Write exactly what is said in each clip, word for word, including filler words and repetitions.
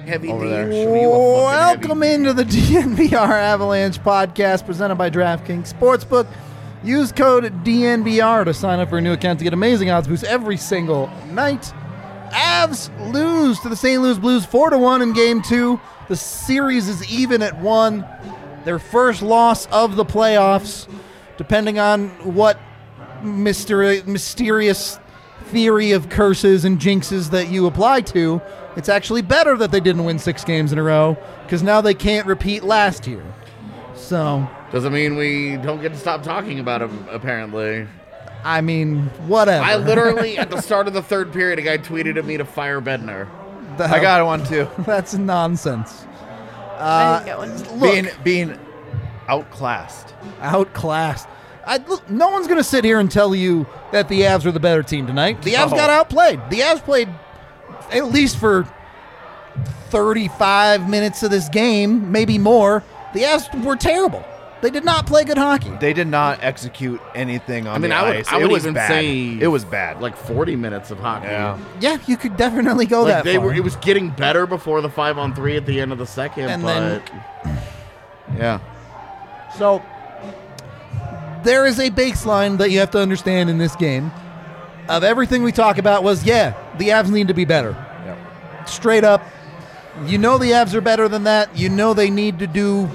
heavy over D. there. Show you a fucking Welcome heavy into the D N V R Avalanche podcast presented by DraftKings Sportsbook. Use code D N V R to sign up for a new account to get amazing odds boosts every single night. Avs lose to the Saint Louis Blues four to one in game two. The series is even at one. Their first loss of the playoffs, depending on what mysteri- mysterious theory of curses and jinxes that you apply to. It's actually better that they didn't win six games in a row because now they can't repeat last year. So, Doesn't mean we don't get to stop talking about him, apparently. I mean, whatever. I literally, at the start of the third period, a guy tweeted at me to fire Bednar. The I hell- got one too. That's nonsense. I didn't get one. Look, Being being outclassed. outclassed. I, look, no one's going to sit here and tell you that the Avs are the better team tonight. The Avs No. got outplayed. The Avs played at least for thirty-five minutes of this game, maybe more. The Avs were terrible. They did not play good hockey. They did not execute anything on I mean, the I would, ice. I would it was even bad. say it was bad. like forty minutes of hockey. Yeah. Yeah, you could definitely go Like that they far. were, it was getting better before the five on three at the end of the second, And but then- yeah, So there is a baseline that you have to understand in this game. Of everything we talk about was, yeah, the Avs need to be better. Yep. Straight up. You know the Avs are better than that. You know they need to do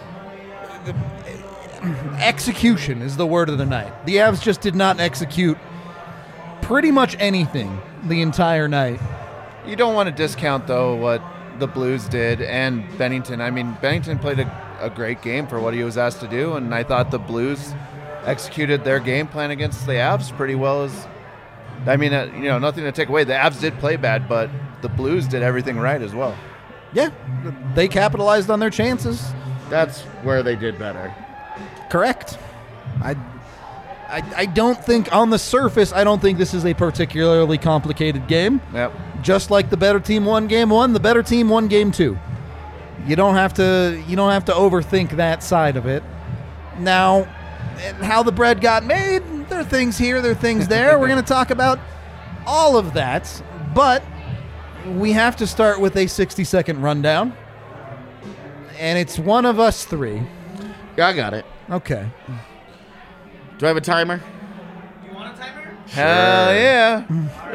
execution is the word of the night. The Avs just did not execute pretty much anything the entire night. You don't want to discount, though, what the Blues did and Bennington. I mean, Bennington played a, a great game for what he was asked to do, and I thought the Blues executed their game plan against the Avs pretty well. As I mean, uh, you know, nothing to take away. The Avs did play bad, but the Blues did everything right as well. Yeah, they capitalized on their chances. that's where they did better. Correct. I, I, I don't think on the surface, I don't think this is a particularly complicated game. Yep. Just like the better team won game one, the better team won game two. You don't have to you don't have to overthink that side of it. Now, and how the bread got made, there are things here, there are things there. We're going to talk about all of that, but we have to start with a sixty-second rundown, and it's one of us three. Yeah, I got it. Okay. Do I have a timer? You want a timer? Hell yeah.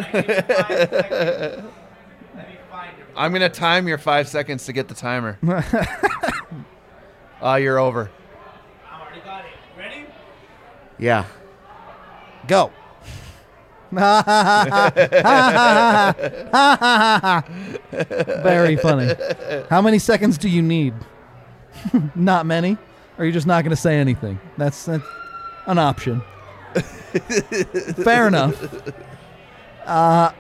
Let me find your I'm going to time your five seconds to get the timer. Ah, you're over. I already got it. Ready? Yeah. Go. Very funny. How many seconds do you need? Not many? Or are you just not going to say anything? That's, that's an option. Fair enough. Uh,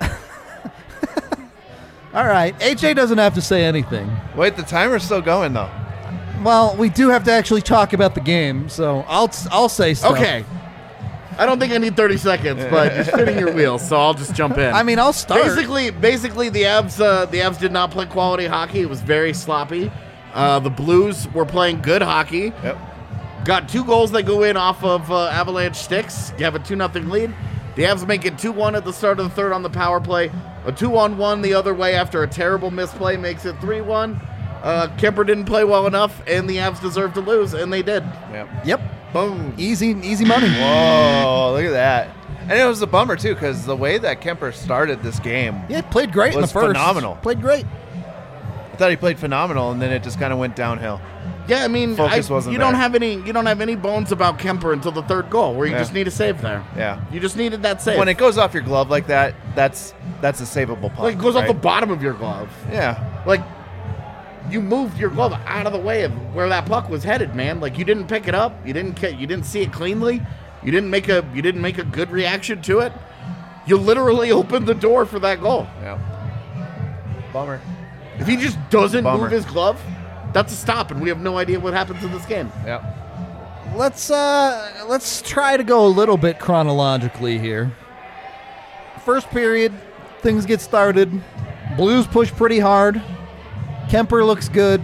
all right. H A doesn't have to say anything. Wait, the timer's still going, though. Well, we do have to actually talk about the game, so I'll I'll say stuff. Okay. I don't think I need thirty seconds, but you're spinning your wheels, so I'll just jump in. I mean, I'll start. Basically, basically the Avs, uh, the Avs did not play quality hockey. It was very sloppy. Uh, the Blues were playing good hockey. Yep. Got two goals that go in off of uh, Avalanche sticks. You have a two nothing lead. The Avs make it two one at the start of the third on the power play. A two on one the other way after a terrible misplay makes it three one. Uh, Kemper didn't play well enough, and the Avs deserved to lose, and they did. Yep. Yep. Boom. Easy, easy money. Whoa, look at that. And it was a bummer, too, because the way that Kemper started this game, Yeah, played great in the Was first. phenomenal. Played great. I thought he played phenomenal, and then it just kind of went downhill. Yeah, I mean, Focus I- wasn't you don't there. have any you don't have any bones about Kemper until the third goal, where you Yeah. just need a save there. Yeah. You just needed that save. When it goes off your glove like that, that's that's a savable puck. like it goes off the right? bottom of your glove. Yeah. Like you moved your glove out of the way of where that puck was headed, man. Like you didn't pick it up, you didn't ca- you didn't see it cleanly, you didn't make a you didn't make a good reaction to it. You literally opened the door for that goal. Yeah. Bummer. If he just doesn't Bummer. move his glove, that's a stop, and we have no idea what happens in this game. Yeah. Let's uh let's try to go a little bit chronologically here. First period, things get started. Blues push pretty hard. Kemper looks good.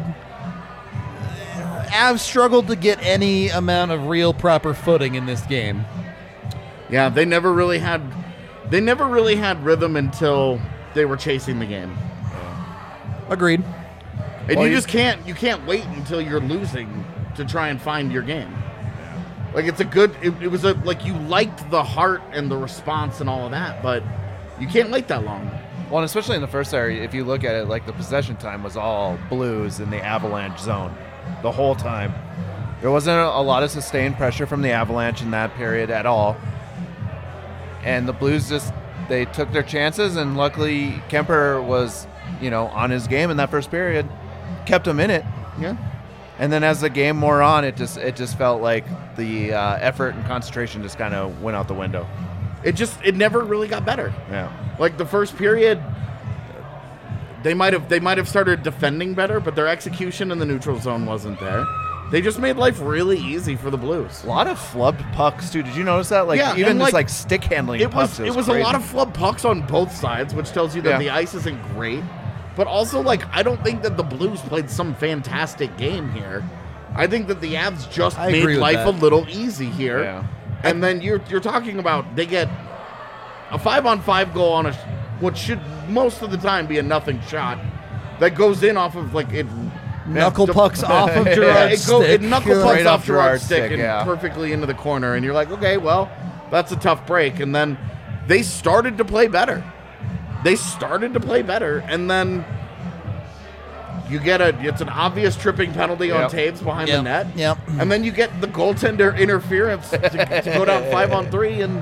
Avs struggled to get any amount of real proper footing in this game. Yeah, they never really had they never really had rhythm until they were chasing the game. Agreed. And Well, you you- just can't you can't wait until you're losing to try and find your game. Like it's a good it, it was a like you liked the heart and the response and all of that, but you can't wait that long. Well, and especially in the first area, if you look at it, like the possession time was all Blues in the Avalanche zone the whole time. There wasn't a lot of sustained pressure from the Avalanche in that period at all. And the Blues just, they took their chances, and luckily Kemper was, you know, on his game in that first period, kept him in it. Yeah. And then as the game wore on, it just it just felt like the uh, effort and concentration just kind of went out the window. It just it never really got better. Yeah. Like the first period, they might have they might have started defending better, but their execution in the neutral zone wasn't there. They just made life really easy for the Blues. A lot of flubbed pucks too. Did you notice that? Like Yeah, even and, just like, like stick handling It pucks. was it was a crazy. lot of flub pucks on both sides, which tells you that Yeah. the ice isn't great. But also, like, I don't think that the Blues played some fantastic game here. I think that the Avs just I made agree with life that. a little easy here. Yeah. And then you're you're talking about they get a five on five goal on a what should most of the time be a nothing shot that goes in off of like it Knuckle the- pucks off of yeah, Gerard's it, go, stick. it knuckle pucks Right off off Gerard's Gerard's stick stick, and yeah. perfectly into the corner, and you're like, okay, well, that's a tough break. And then they started to play better. They started to play better, and then you get a it's an obvious tripping penalty on Yep. Taves behind Yep, the net. yep. And then you get the goaltender interference to, to go down five on three, and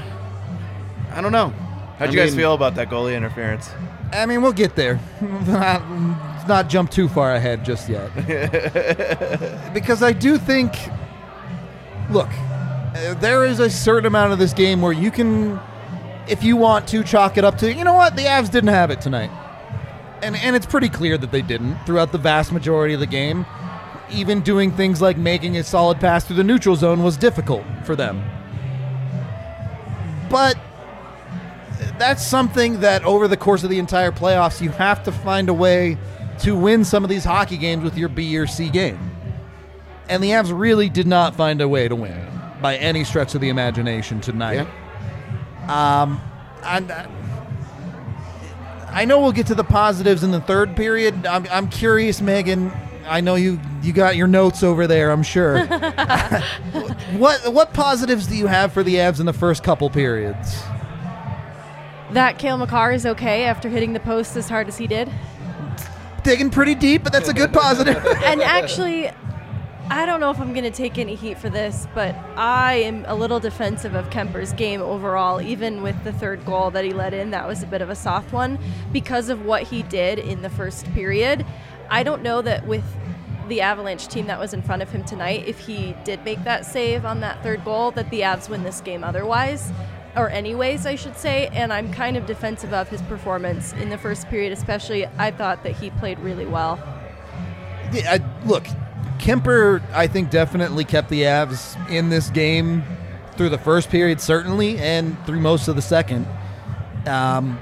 I don't know. How'd I you guys mean, feel about that goalie interference? I mean, we'll get there. not, not jump too far ahead just yet. Because I do think, look, uh, there is a certain amount of this game where you can, if you want to, chalk it up to, you know what, the Avs didn't have it tonight. And, and it's pretty clear that they didn't throughout the vast majority of the game. Even doing things like making a solid pass through the neutral zone was difficult for them. But that's something that over the course of the entire playoffs, you have to find a way to win some of these hockey games with your B or C game. And the Avs really did not find a way to win by any stretch of the imagination tonight. Yeah. Um, and uh, I know we'll get to the positives in the third period. I'm, I'm curious, Megan. I know you, you got your notes over there, I'm sure. what what positives do you have for the Avs in the first couple periods? That Cale Makar is okay after hitting the post as hard as he did. Digging pretty deep, but that's a good positive. And actually, I don't know if I'm going to take any heat for this, but I am a little defensive of Kemper's game overall, even with the third goal that he let in. That was a bit of a soft one because of what he did in the first period. I don't know that with the Avalanche team that was in front of him tonight, if he did make that save on that third goal, that the Avs win this game otherwise. Or anyways, I should say, and I'm kind of defensive of his performance in the first period, especially. I thought that he played really well. Yeah, I, look, Kemper, I think, definitely kept the Avs in this game through the first period, certainly, and through most of the second. Um,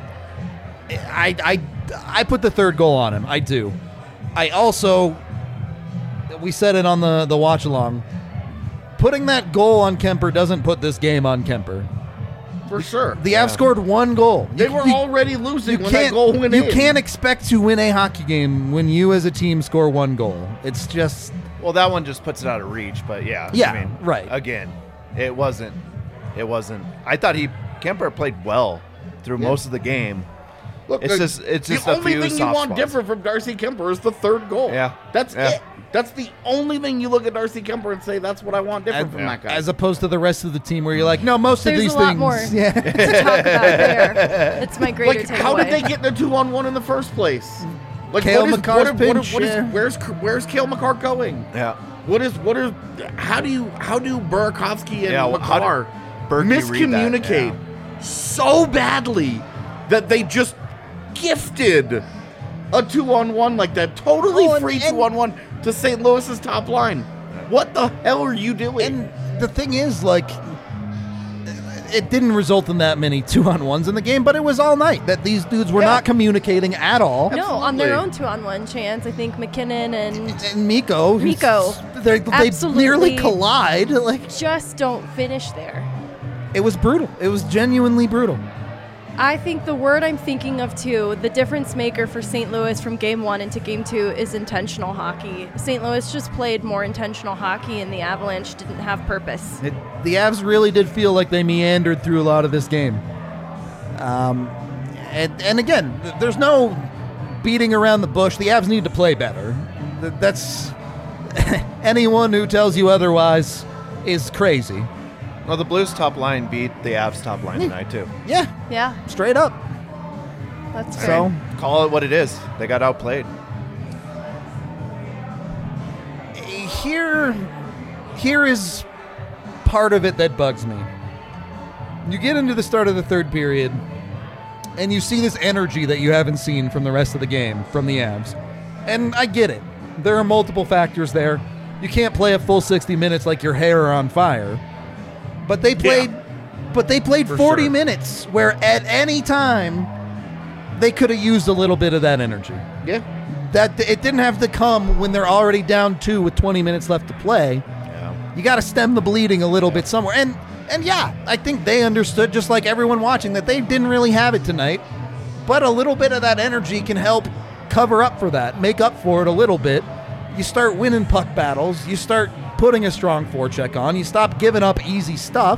I, I, I put the third goal on him. I do. I also, we said it on the, the watch along, putting that goal on Kemper doesn't put this game on Kemper. For sure. The Avs scored one goal. They You- were you- already losing you when that can't, goal went you in. can't expect to win a hockey game when you as a team score one goal. It's just Well, that one just puts it out of reach, but yeah. Yeah, I mean, right. Again, it wasn't. It wasn't. I thought he Kemper played well through Yeah. most of the game. Look, It's the, just- it's just the a only few thing you soft want spots. different from Darcy Kemper is the third goal. Yeah. That's Yeah. it. That's the only thing you look at Darcy Kemper and say that's what I want different as, from that guy. as opposed to the rest of the team where you're like, no, most There's of these a lot things. more. Yeah. to talk about there. It's my greater like, takeaway. how did they get in a two-on-one in the first place? Like, Cale what is, Makar's what, is- what is- pinch, what is- yeah. where's where's Cale Makar going? Yeah. What is what is? How do you how do Burakovsky and Yeah, well, how Makar did Berkey read that? miscommunicate so badly that they just gifted a two-on-one like that, totally Oh, and- free and- two-on-one to Saint Louis's top line? What the hell are you doing? And the thing is, like, it didn't result in that many two-on-ones in the game, but it was all night that these dudes were Yeah. not communicating at all. No, on their Absolutely. own two-on-one chance. I think McKinnon and And Miko, who's- Miko. they they Absolutely. nearly collide. Like, just don't finish there. it was brutal. It was genuinely brutal. I think the word I'm thinking of too, the difference maker for Saint Louis from game one into game two is intentional hockey. Saint Louis just played more intentional hockey and the Avalanche didn't have purpose. It, the Avs really did feel like they meandered through a lot of this game. Um, and, and again, th- there's no beating around the bush. The Avs need to play better. Th- That's anyone who tells you otherwise is crazy. Well, the Blues top line beat the Avs top line tonight, too. Yeah, Yeah, straight up. that's great. So Call it what it is. They got outplayed. here, here is part of it that bugs me. You get into the start of the third period, and you see this energy that you haven't seen from the rest of the game from the Avs. And I get it. There are multiple factors there. You can't play a full sixty minutes like your hair on fire. But they played Yeah. but they played For forty sure. minutes where at any time they could have used a little bit of that energy. Yeah. That it didn't have to come when they're already down two with twenty minutes left to play. Yeah. You got to stem the bleeding a little bit somewhere. And and yeah, I think they understood, just like everyone watching, that they didn't really have it tonight. But a little bit of that energy can help cover up for that, make up for it a little bit. You start winning puck battles. You start putting a strong forecheck on. You stop giving up easy stuff.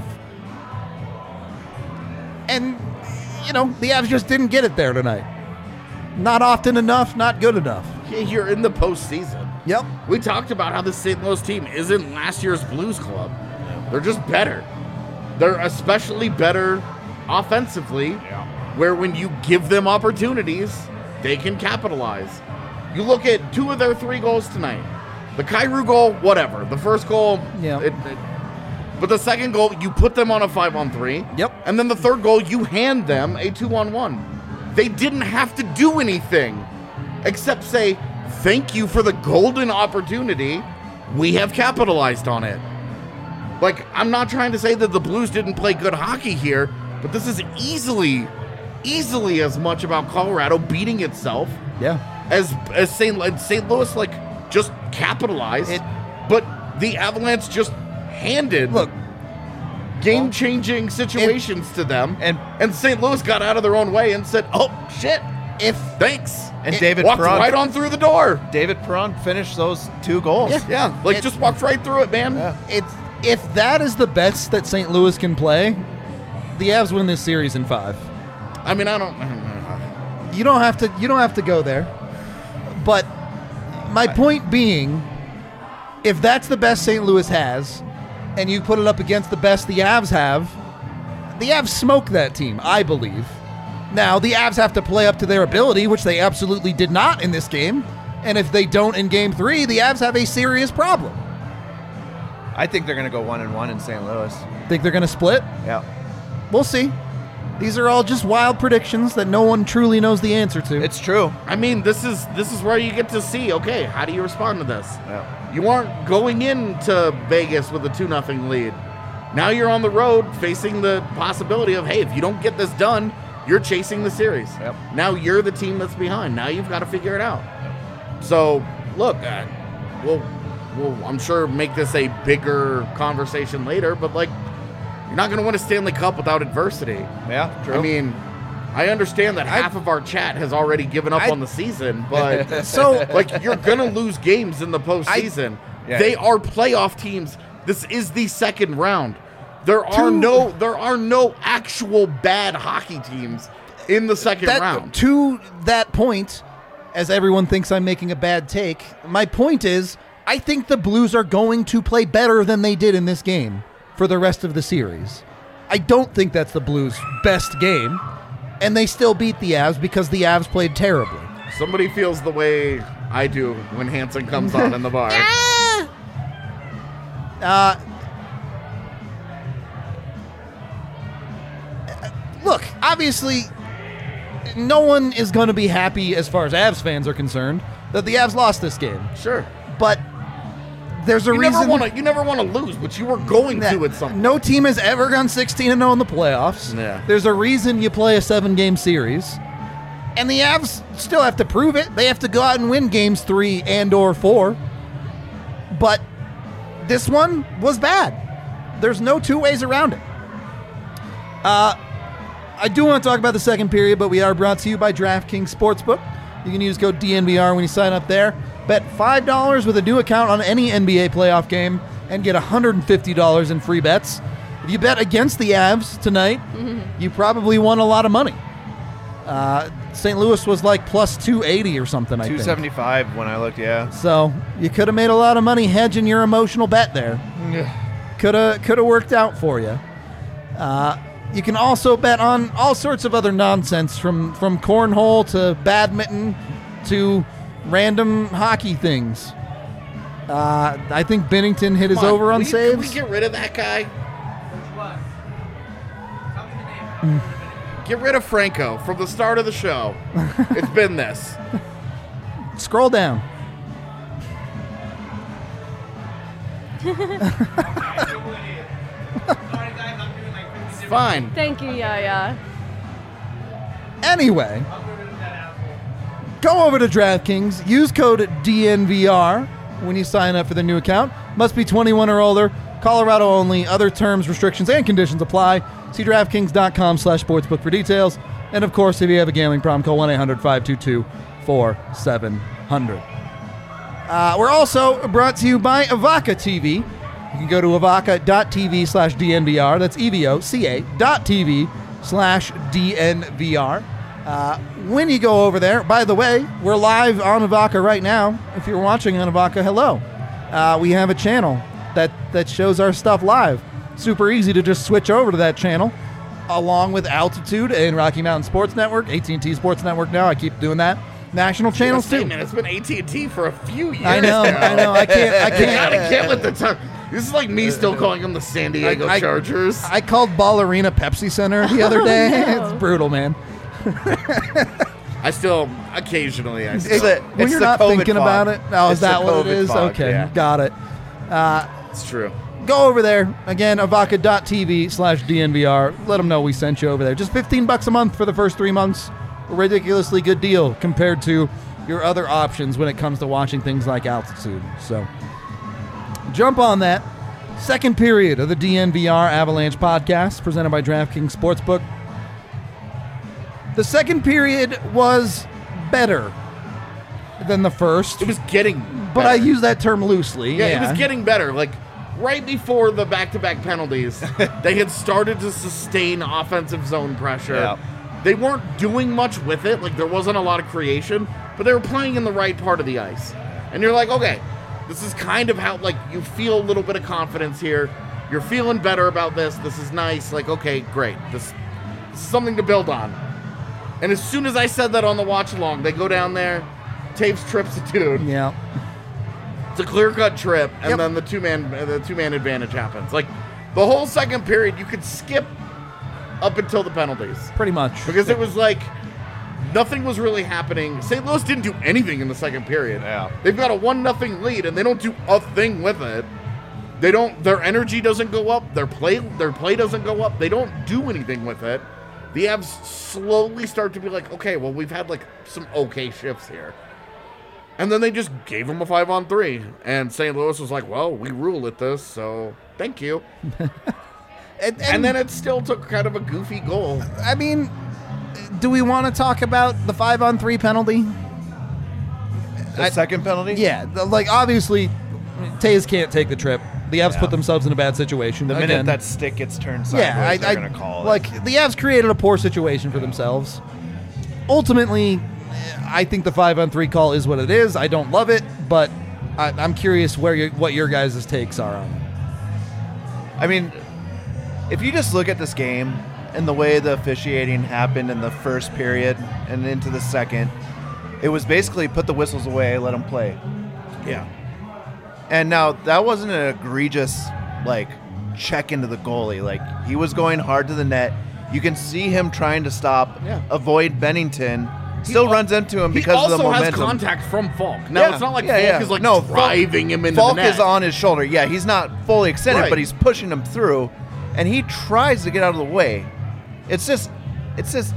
And, you know, the Avs just didn't get it there tonight. Not often enough, not good enough. Yeah, you're in the postseason. Yep. We talked about how the Saint Louis team isn't last year's Blues club. They're just better. They're especially better offensively, where when you give them opportunities, they can capitalize. You look at two of their three goals tonight. The Kyrou goal, whatever. The first goal, Yeah. it, it, but the second goal, you put them on a five on three. Yep. And then the third goal, you hand them a two on one. They didn't have to do anything except say, thank you for the golden opportunity. We have capitalized on it. Like, I'm not trying to say that the Blues didn't play good hockey here, but this is easily, easily as much about Colorado beating itself Yeah. as as Saint Saint Louis like just capitalized, It- but the Avalanche just handed Look, game-changing situations to them, and- and Saint Louis got out of their own way and said, "Oh shit, if thanks," And It David walked Perron, right on through the door. David Perron finished those two goals. Yeah. Yeah, like It- just walked right through it, man. Yeah. it's if that is the best that Saint Louis can play, the Avs win this series in five. I mean, I don't. You don't have to. You don't have to go there. But my point being, if that's the best Saint Louis has, and you put it up against the best the Avs have, the Avs smoke that team, I believe. Now the Avs have to play up to their ability, which they absolutely did not in this game. And if they don't in Game Three, the Avs have a serious problem. I think they're going to go one and one in Saint Louis. Think they're going to split? Yeah. We'll see. These are all just wild predictions that no one truly knows the answer to. It's true. I mean, this is this is where you get to see. Okay, how do you respond to this? Yeah. You aren't going into Vegas with a two nothing lead. Now you're on the road facing the possibility of, hey, if you don't get this done, you're chasing the series. Yep. Now you're the team that's behind. Now you've got to figure it out. So, look, uh, we'll, we'll, I'm sure, make this a bigger conversation later, but, like, you're not going to win a Stanley Cup without adversity. Yeah, true. I mean, I understand that half of our chat has already given up I- on the season, but so, like you're gonna lose games in the postseason. Yeah. They are playoff teams. This is the second round. There are Two- no there are no actual bad hockey teams in the second that, round. to that point, as everyone thinks I'm making a bad take, my point is I think the Blues are going to play better than they did in this game for the rest of the series. I don't think that's the Blues' best game, and they still beat the Avs because the Avs played terribly. Somebody feels the way I do when Hanson comes on in the bar. Uh, look, obviously, no one is going to be happy as far as Avs fans are concerned that the Avs lost this game. Sure. But there's a You reason. never want to you never want to lose, but you were going that to at some point. no team has ever gone sixteen and oh in the playoffs. Yeah. There's a reason you play a seven-game series. And the Avs still have to prove it. They have to go out and win games three and or four. But this one was bad. There's no two ways around it. Uh, I do want to talk about the second period, but we are brought to you by DraftKings Sportsbook. You can use code D N V R when you sign up there. Bet five dollars with a new account on any N B A playoff game and get one hundred fifty dollars in free bets. If you bet against the Avs tonight, mm-hmm. you probably won a lot of money. Uh, Saint Louis was like plus two eighty or something, I think. two seventy-five when I looked, yeah. So you could have made a lot of money hedging your emotional bet there. Could have could have worked out for you. Uh, you can also bet on all sorts of other nonsense, from, from cornhole to badminton to random hockey things. Uh, I think Bennington hit his Come on, over on will you- saves. Can we get rid of that guy? What? Tell me the name. Get rid of Franco from the start of the show. It's been this. Scroll down. I know who it is. Sorry, guys. I'm doing like fifty different Fine. Thank you, Yaya. Anyway, I'll get rid of that asshole. go over to DraftKings. Use code D N V R when you sign up for the new account. Must be twenty-one or older. Colorado only. Other terms, restrictions, and conditions apply. See DraftKings.com slash sportsbook for details. And, of course, if you have a gambling problem, call one eight hundred five two two four seven zero zero. Uh, we're also brought to you by Avaca T V. You can go to avaca.tv slash DNVR. That's E-V-O-C-A dot TV slash DNVR. Uh, when you go over there, by the way, we're live on Avaca right now. If you're watching on Avaca, hello. Uh, we have a channel that, that shows our stuff live. Super easy to just switch over to that channel, along with Altitude and Rocky Mountain Sports Network, A T and T Sports Network now. I keep doing that. National channels, too. Man, it's been A T and T for a few years. I know, now. I know. I can't. I You can't. gotta get with the time. This is like me still calling them the San Diego I- I- Chargers. I called Ballerina Pepsi Center the other day. no. It's brutal, man. I still occasionally. I It's still. a- When it's you're the not COVID thinking fog. about it, oh, is It's the that what it COVID is? fog, Okay, yeah. got it. It's true. Go over there again, avaca.tv slash DNVR. Let them know we sent you over there. Just fifteen bucks a month for the first three months. A ridiculously good deal compared to your other options when it comes to watching things like Altitude. So jump on that. Second period of the D N V R Avalanche podcast presented by DraftKings Sportsbook. The second period was better than the first, It was getting. but I better. use that term loosely. Yeah, Yeah, it was getting better. Like right before the back-to-back penalties, they had started to sustain offensive zone pressure. Yeah. They weren't doing much with it. Like there wasn't a lot of creation, but they were playing in the right part of the ice. And you're like, okay, this is kind of how like you feel a little bit of confidence here. You're feeling better about this. This is nice. Like, okay, great. This, this is something to build on. And as soon as I said that on the watch along, they go down there, Taves trips a dude. Yeah. It's a clear-cut trip, and Yep. then the two-man the two-man advantage happens. Like the whole second period, you could skip up until the penalties Pretty much. because it was like nothing was really happening. Saint Louis didn't do anything in the second period. Yeah. They've got a one nothing lead, and they don't do a thing with it. They don't. Their energy doesn't go up. Their play their play doesn't go up. They don't do anything with it. The Avs slowly start to be like, okay, well, we've had like some okay shifts here. And then they just gave them a five on three. And Saint Louis was like, well, we rule at this, so thank you. And, and, And then it still took kind of a goofy goal. I mean, do we want to talk about the five on three penalty? The I- second penalty? Yeah, the- like obviously, Tays can't take the trip. The Avs Yeah. put themselves in a bad situation. The minute Again, that stick gets turned sideways, yeah, I, they're I going to call it. like the Avs created a poor situation for themselves. Ultimately, I think the five on three call is what it is. I don't love it, but I, I'm curious where your, what your guys' takes are on it. I mean, if you just look at this game and the way the officiating happened in the first period and into the second, it was basically put the whistles away, let them play. Yeah. And now that wasn't an egregious like check into the goalie. Like he was going hard to the net. You can see him trying to stop, Yeah. avoid Bennington. Still al- runs into him He because of the also has momentum. contact from Falk. Now, Yeah, it's not like yeah, Falk yeah. is like No, Falk- driving him into Falk the net. is on his shoulder. Yeah, he's not fully extended, Right. but he's pushing him through, and he tries to get out of the way. It's just, it's just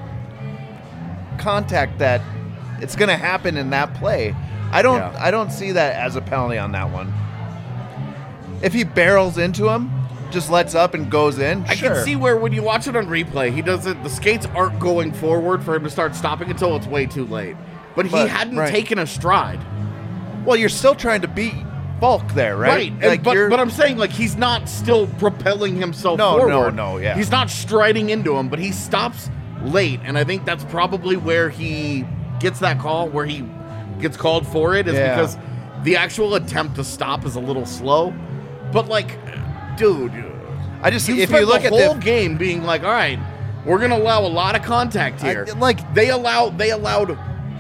contact that it's going to happen in that play. I don't, Yeah. I don't see that as a penalty on that one. If he barrels into him, just lets up and goes in. I sure. can see where when you watch it on replay, he doesn't. The skates aren't going forward for him to start stopping until it's way too late. But he But- hadn't right. taken a stride. Well, you're still trying to beat Falk there, right? Right, and- Like, but, you're- but I'm saying, like, he's not still propelling himself No, no, forward. no, yeah. He's not striding into him, but he stops late, and I think that's probably where he gets that call, where he gets called for it, is Yeah. because the actual attempt to stop is a little slow. But, like, dude, I just you if spent you look the at whole the game being like, all right, we're gonna allow a lot of contact I- here. like- they allow they allowed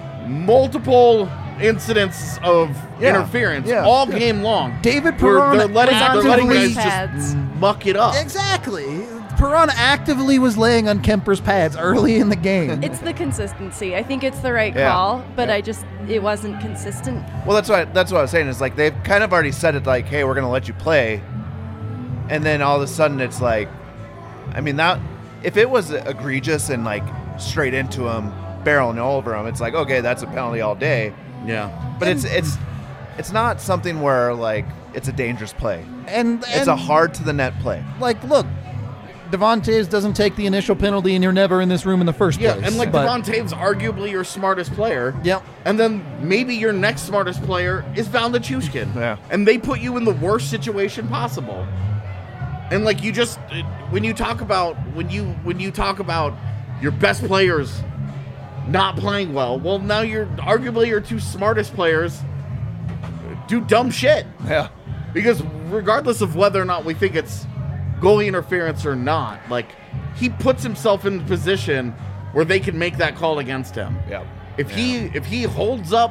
multiple incidents of Yeah, interference yeah. all game long. David where Perron they're letting, they're letting actively- guys Pads. just muck it up. Exactly. Perron actively was laying on Kemper's pads early in the game. It's the consistency. I think it's the right Yeah. call, but Yeah. I just it wasn't consistent. well, that's what that's what I was saying. Is like they've kind of already said it, like, hey, we're gonna let you play, and then all of a sudden it's like, I mean, that if it was egregious and like straight into him, barreling over him, it's like, okay, that's a penalty all day. Yeah. But it's it's it's not something where like it's a dangerous play. and, and It's a hard to the net play. like look, Devontae's doesn't take the initial penalty, and you're never in this room in the first Yeah, place. and like but- Devon Taves, arguably your smartest player. Yep. And then maybe your next smartest player is Valda Chushkin. Yeah. And they put you in the worst situation possible. And like you just when you talk about when you when you talk about your best players not playing well, well now you're arguably your two smartest players do dumb shit. Yeah. Because regardless of whether or not we think it's goalie interference or not, like he puts himself in a position where they can make that call against him. Yeah. If he if he holds up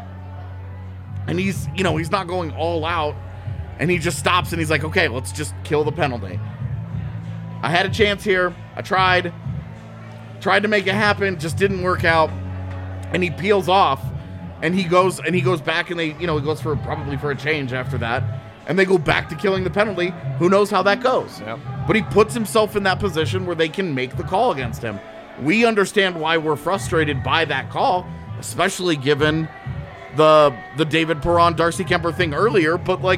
and he's you know he's not going all out and he just stops and he's like, okay, let's just kill the penalty. I had a chance here. I tried, tried to make it happen, just didn't work out, and he peels off, and he goes and he goes back and they you know he goes for probably for a change after that. And they go back to killing the penalty. Who knows how that goes? Yep. But he puts himself in that position where they can make the call against him. We understand why we're frustrated by that call, especially given the the David Perron, Darcy Kemper thing earlier. But like,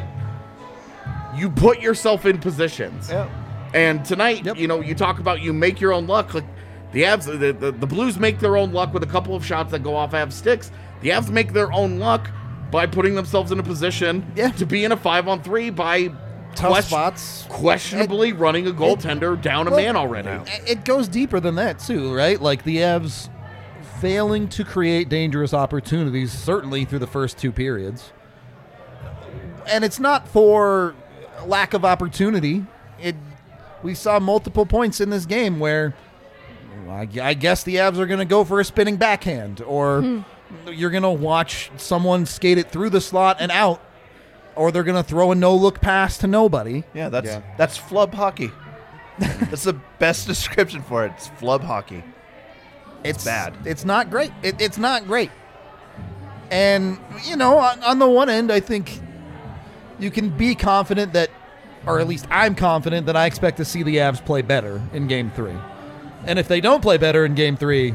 you put yourself in positions. Yeah. And tonight, Yep. you know, you talk about you make your own luck. Like the Avs, the, the the Blues make their own luck with a couple of shots that go off Avs sticks. The Avs make their own luck by putting themselves in a position Yeah. to be in a five on three by tough question- spots. questionably running a goaltender down a Well, man already. It goes deeper than that too, right? Like the Avs failing to create dangerous opportunities, certainly through the first two periods. And it's not for lack of opportunity. It we saw multiple points in this game where I, I guess the Avs are going to go for a spinning backhand, or you're going to watch someone skate it through the slot and out, or they're going to throw a no-look pass to nobody. Yeah, that's Yeah. that's flub hockey. That's the best description for it. It's flub hockey. It's bad. It's not great. It, it's not great. And, you know, on, on the one end, I think you can be confident that, or at least I'm confident that I expect to see the Avs play better in game three. And if they don't play better in game three,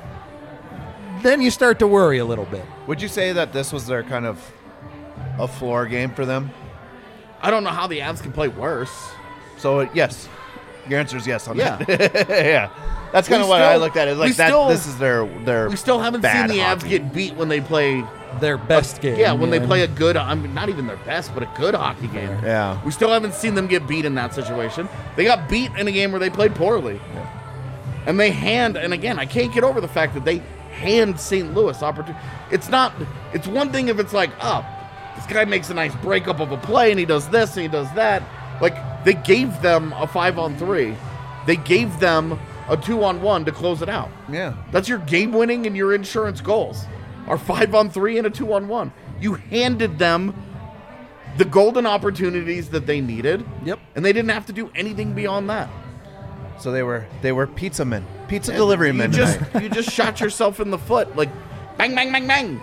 then you start to worry a little bit. Would you say that this was their kind of a floor game for them? I don't know how the Avs can play worse. So uh, yes, your answer is yes on Yeah. that. Yeah, that's kind We of what still- I looked at it we like. That still- this is their their. We still haven't seen bad the Avs hockey. get beat when they play. Their best game. Yeah, when they play a good, I mean, not even their best, but a good hockey game. Yeah. We still haven't seen them get beat in that situation. They got beat in a game where they played poorly. And they hand, and again, I can't get over the fact that they hand Saint Louis opportunity. It's not, it's one thing if it's like, oh, this guy makes a nice breakup of a play and he does this and he does that. Like, they gave them a five on three. They gave them a two on one to close it out. Yeah. That's your game winning and your insurance goals. Are five on three and a two on one. You handed them the golden opportunities that they needed. Yep. And they didn't have to do anything beyond that. So they were they were pizza men, pizza delivery you men. just tonight. you just shot yourself in the foot. Like bang bang bang bang.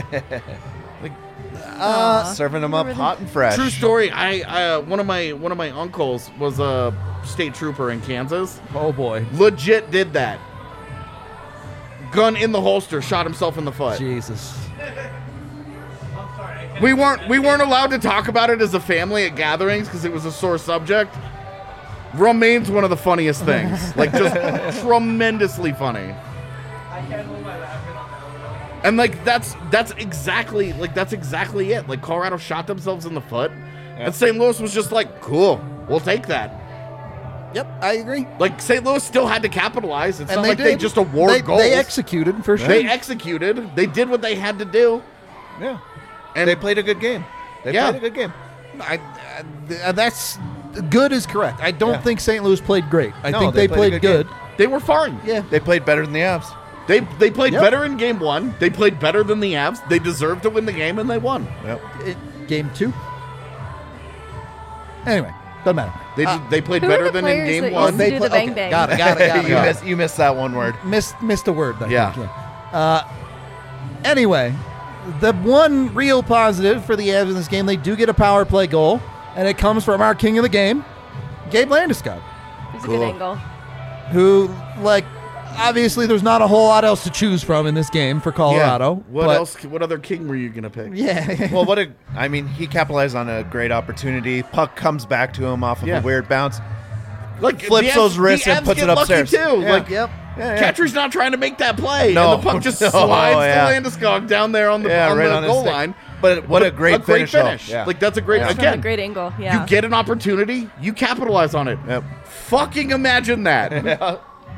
serving them up Remember hot and fresh. True story. I uh, one of my one of my uncles was a state trooper in Kansas. Oh, boy. Legit did that. Gun in the holster, shot himself in the foot. Jesus. I'm sorry. We weren't we weren't allowed to talk about it as a family at gatherings because it was a sore subject. remains one of the funniest things. Like, just tremendously funny. I can't hold my laughing on that one. And like that's that's exactly like that's exactly it. Like Colorado shot themselves in the foot, Yeah. and Saint Louis was just like, "Cool, we'll take that." Yep, I agree. Like Saint Louis still had to capitalize. It's And not they like did. they just award they, goals. They executed for sure. They executed. They did what they had to do. Yeah. And They played a good game. They Yeah. played a good game. I, uh, that's good is correct. I don't Yeah. think Saint Louis played great. I No, think they they, played played, a good good. they were fine. Yeah. They played better than the Avs. They they played Yep. better in game one. They played better than the Avs. They deserved to win the game, and they won. Yep. It- game two. Anyway, doesn't matter. They Uh, they played Who are better the than in players game that one. used to do the bang okay, bang? Got it, got it, got it. you got it. missed you missed that one word. Missed, missed a word. I Yeah. think, yeah. Uh, anyway, the one real positive for the Avs in this game, they do get a power play goal, and it comes from our king of the game, Gabe Landeskog, It's a Cool. good angle. who, like, obviously there's not a whole lot else to choose from in this game for Colorado. Yeah. What but- else? What other king were you gonna pick? Yeah. Well, what a I mean, he capitalized on a great opportunity. Puck comes back to him off of Yeah. a weird bounce. Like Flips the Avs- those wrists the and Avs puts get it lucky upstairs. too. Yeah. Like Yep. Yeah, yeah. Kadri's not trying to make that play, No. and the puck just No, slides yeah. to Landeskog down there on the, Yeah, on right the on his goal stick. line. But what a great a great finish, though. finish. Yeah. Like that's a great Yeah. It's from a again. great angle. Yeah. You get an opportunity, you capitalize on it. Yep. Fucking imagine that.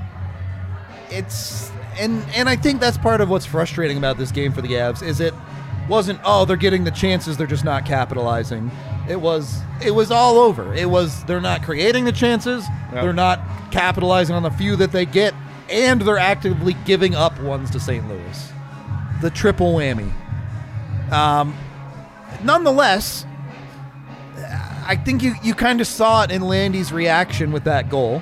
it's and and I think that's part of what's frustrating about this game for the Avs is it wasn't oh they're getting the chances, they're just not capitalizing. It was it was all over. It was they're not creating the chances, Yep. they're not capitalizing on the few that they get, and they're actively giving up ones to Saint Louis. The triple whammy. Um, nonetheless, I think you, you kind of saw it in Landy's reaction with that goal.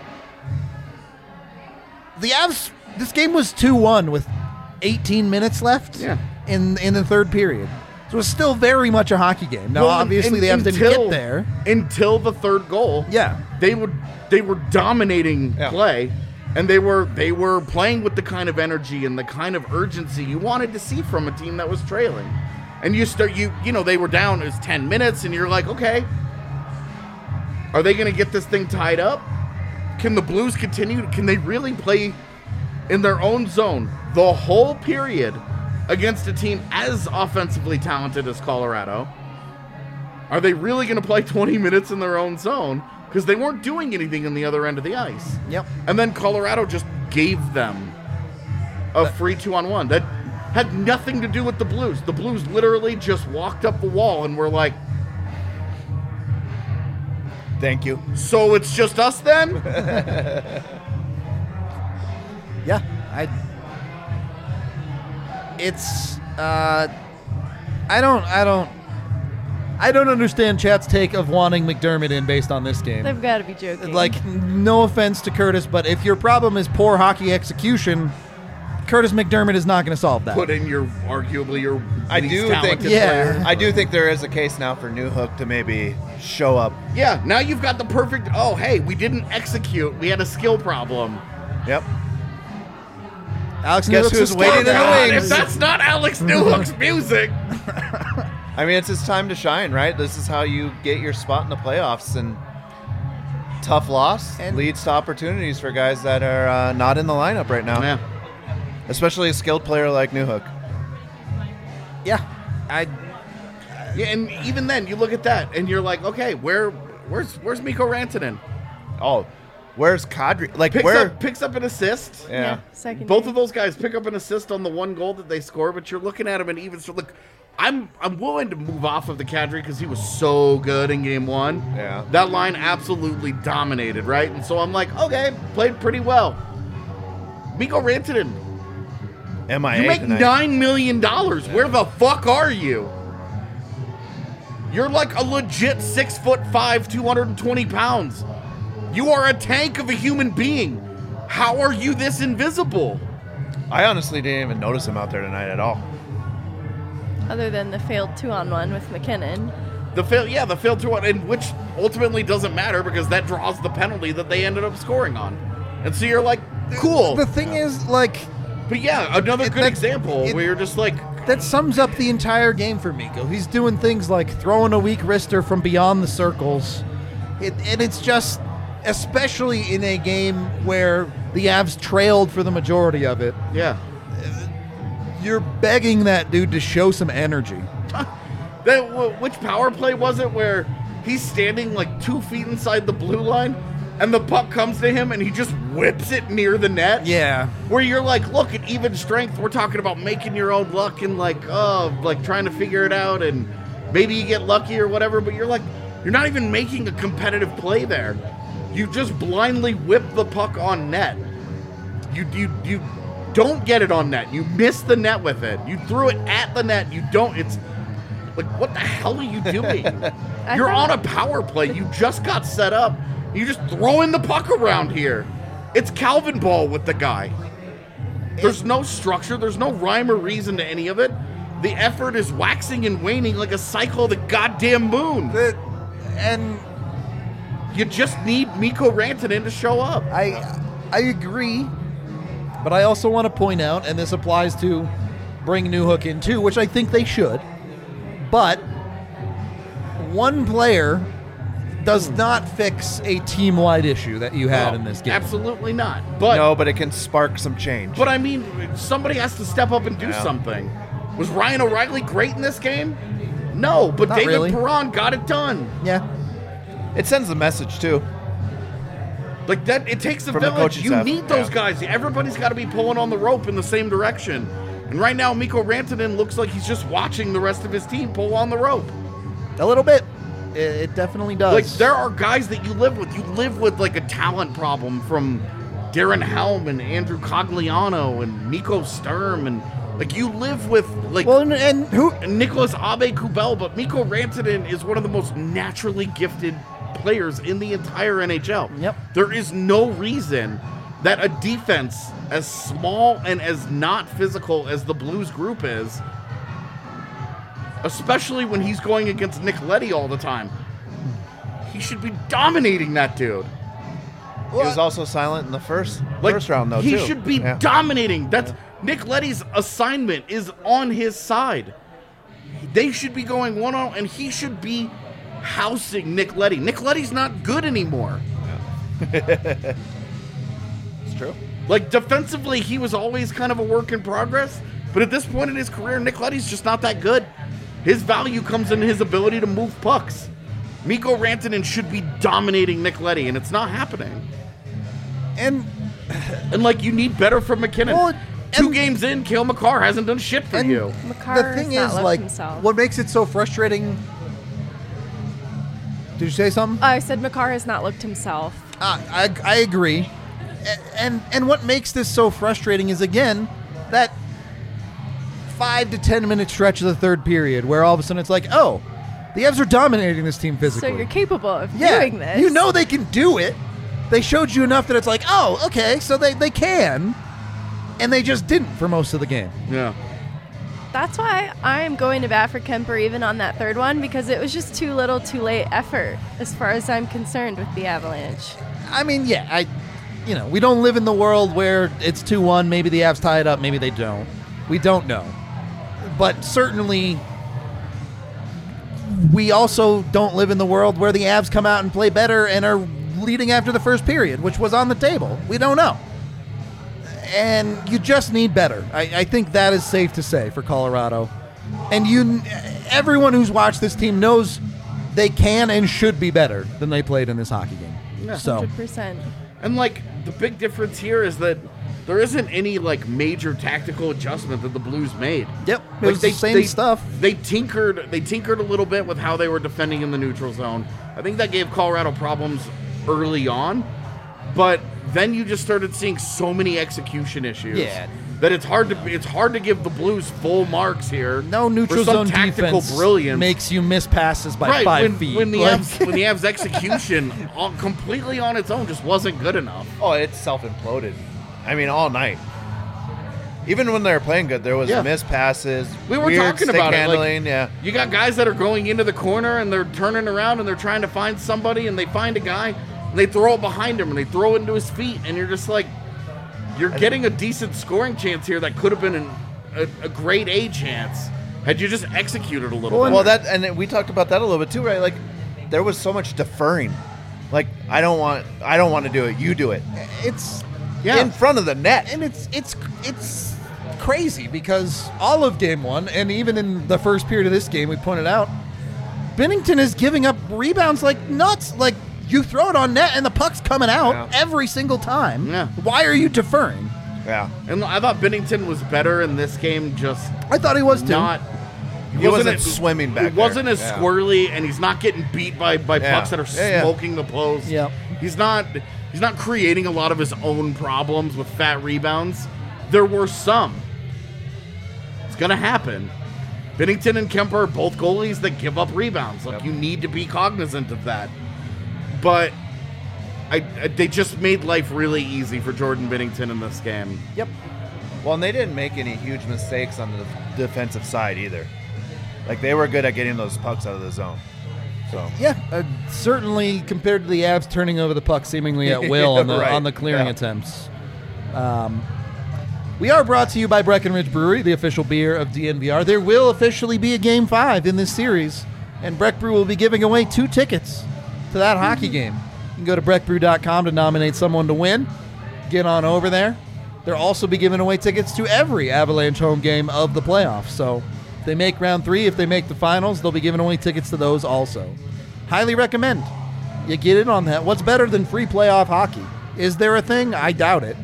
The Avs, this game was two one with eighteen minutes left Yeah. in in the third period. So it was still very much a hockey game. Now, Well, obviously, un- the Avs didn't until- get there. until the third goal. Yeah. They would they were dominating Yeah. play, and they were they were playing with the kind of energy and the kind of urgency you wanted to see from a team that was trailing. And you start you you know they were down it was ten minutes, and you're like, okay, are they going to get this thing tied up? Can the Blues continue? Can they really play in their own zone the whole period against a team as offensively talented as Colorado? Are they really going to play twenty minutes in their own zone? Because they weren't doing anything in the other end of the ice. Yep. And then Colorado just gave them a free two on one. That had nothing to do with the Blues. The Blues literally just walked up the wall and were like, Thank you. so it's just us then? Yeah, I. It's uh, I don't, I don't, I don't understand chat's take of wanting McDermott in based on this game. They've got to be joking. Like, no offense to Curtis, but if your problem is poor hockey execution, Curtis McDermott is not going to solve that. Put in your arguably your I least do think talented Yeah. player. I do think there is a case now for Newhook to maybe show up. Yeah, now you've got the perfect. Oh, hey, we didn't execute. We had a skill problem. Yep. Alex Guess Newhook's who's a waiting in the star. God, wings? if that's not Alex Newhook's music. I mean, it's his time to shine, right? This is how you get your spot in the playoffs, and tough loss And- leads to opportunities for guys that are uh, not in the lineup right now, Yeah. especially a skilled player like Newhook. Yeah, I. Yeah, and even then, you look at that, and you're like, okay, where, where's, where's Mikko Rantanen? Oh, where's Kadri? Like Picks where? up, picks up an assist. Yeah. Second. Both of those guys pick up an assist on the one goal that they score, but you're looking at him and even so. Look, I'm I'm willing to move off of the Kadri because he was so good in game one. Yeah. That line absolutely dominated, right? And so I'm like, okay, played pretty well. Mikko Rantanen, M I A you make tonight. nine million dollars. Where the fuck are you? You're like a legit six foot five, two hundred twenty pounds. You are a tank of a human being. How are you this invisible? I honestly didn't even notice him out there tonight at all. Other than the failed two-on-one with McKinnon. The fail, yeah, the failed to one, and which ultimately doesn't matter because that draws the penalty that they ended up scoring on. And so you're like, cool. The thing is, like, But yeah, another It- good that- example it- where you're just like, that sums up the entire game for Mikko. He's doing things like throwing a weak wrister from beyond the circles. It, and it's just, especially in a game where the Avs trailed for the majority of it. Yeah. You're begging that dude to show some energy. That wh- which power play was it where he's standing like two feet inside the blue line and the puck comes to him and he just whips it near the net? Yeah. Where you're like, look, at even strength, we're talking about making your own luck and like, oh, like trying to figure it out and maybe you get lucky or whatever, but you're like, you're not even making a competitive play there. You just blindly whip the puck on net. You you you don't get it on net. You miss the net with it. You threw it at the net. You don't. It's like, what the hell are you doing? You're on a power play. You just got set up. You just throwing the puck around here. It's Calvin Ball with the guy. There's no structure. There's no rhyme or reason to any of it. The effort is waxing and waning like a cycle of the goddamn moon. The, and You just need Mikko Rantanen to show up. I I agree, but I also want to point out, and this applies to bring Newhook in too, which I think they should, but one player does not fix a team-wide issue that you had No, in this game. Absolutely not. But No, but it can spark some change. but I mean, somebody has to step up and do Yeah. something. Was Ryan O'Reilly great in this game? No, but Not David really. Perron got it done. Yeah. It sends a message, too. Like that, it takes a From the village. coaching You staff, need those yeah. guys. Everybody's got to be pulling on the rope in the same direction. And right now, Mikko Rantanen looks like he's just watching the rest of his team pull on the rope. A little bit. It, it definitely does. Like there are guys that you live with. You live with like a talent problem from Darren Helm and Andrew Cogliano and Nico Sturm and like you live with like well, and, and who? Nicholas Abe-Kubel, but Mikko Rantanen is one of the most naturally gifted players in the entire N H L. Yep. There is no reason that a defense as small and as not physical as the Blues group is, especially when he's going against Nick Leddy all the time, he should be dominating that dude. He was also silent in the first Like, first round, though, he too. should be Yeah. dominating. That's Nick Leddy's assignment is on his side. They should be going one on, and he should be housing Nick Leddy. Nick Leddy's not good anymore. It's true. Like defensively, he was always kind of a work in progress. But at this point in his career, Nick Leddy's just not that good. His value comes in his ability to move pucks. Mikko Rantanen should be dominating Nick Leddy, and it's not happening. And And like you need better from McKinnon. Well, Two and- games in, Cale Makar hasn't done shit for and you. Makar the thing has is, not left like, himself. what makes it so frustrating? Did you say something? I said Makar has not looked himself. Uh, I, I agree. A- And and what makes this so frustrating is, again, that five to ten minute stretch of the third period where all of a sudden it's like, oh, the Avs are dominating this team physically. So you're capable of yeah, doing this. you know they can do it. They showed you enough that it's like, oh, okay, so they, they can. And they just didn't for most of the game. Yeah. That's why I'm going to bat for Kemper even on that third one, because it was just too little, too late effort as far as I'm concerned with the Avalanche. I mean, yeah, I, you know, we don't live in the world where it's two one. Maybe the Avs tie it up. Maybe they don't. We don't know. But certainly, we also don't live in the world where the Avs come out and play better and are leading after the first period, which was on the table. We don't know. And you just need better. I, I think that is safe to say for Colorado. And you, everyone who's watched this team knows they can and should be better than they played in this hockey game. Yeah. So. one hundred percent. And like the big difference here is that there isn't any like major tactical adjustment that the Blues made. Yep, it Like was the same stuff. They tinkered. They tinkered a little bit with how they were defending in the neutral zone. I think that gave Colorado problems early on, but then you just started seeing so many execution issues. Yeah. That it's hard to it's hard to give the Blues full marks here. No neutral for some zone tactical defense brilliance. makes you miss passes by right five when, feet. when the Like- Avs, when the Avs execution on, completely on its own just wasn't good enough. Oh, it's self-imploded. I mean, all night. Even when they were playing good, there was Yeah. missed passes. We were weird talking stick about it. handling, Like, yeah. you got guys that are going into the corner and they're turning around and they're trying to find somebody and they find a guy and they throw it behind him and they throw it into his feet and you're just like, you're getting a decent scoring chance here that could have been an, a, a grade A chance had you just executed a little Well, bit. Well, that and we talked about that a little bit too, right? Like, there was so much deferring. Like I don't want I don't want to do it. You do it It's Yeah. in front of the net. and it's it's it's crazy because all of game one and even in the first period of this game, we pointed out Bennington is giving up rebounds like nuts. Like you throw it on net and the puck's coming out Yeah. every single time. Yeah. Why are you deferring? Yeah. And I thought Bennington was better in this game, just I thought he was too. not. He wasn't swimming back He wasn't there. as Yeah. squirrely, and he's not getting beat by, by Yeah. pucks that are Yeah, yeah. smoking the post. Yep. He's not. He's not creating a lot of his own problems with fat rebounds. There were some. It's gonna happen. Bennington and Kemper are both goalies that give up rebounds. Like Yep. you need to be cognizant of that. But I, I they just made life really easy for Jordan Bennington in this game. Yep. Well, and they didn't make any huge mistakes on the defensive side either. Like they were good at getting those pucks out of the zone. So Yeah, uh, certainly compared to the Avs turning over the puck seemingly at will on the Right. on the clearing Yeah. attempts. Um, we are brought to you by Breckenridge Brewery, the official beer of D N V R. There will officially be a Game Five in this series, and Breck Brew will be giving away two tickets to that hockey game. You can go to breck brew dot com to nominate someone to win. Get on over there. They'll also be giving away tickets to every Avalanche home game of the playoffs. So if they make round three, if they make the finals, they'll be giving away tickets to those also. Highly recommend you get in on that. What's better than free playoff hockey? Is there a thing? I doubt it.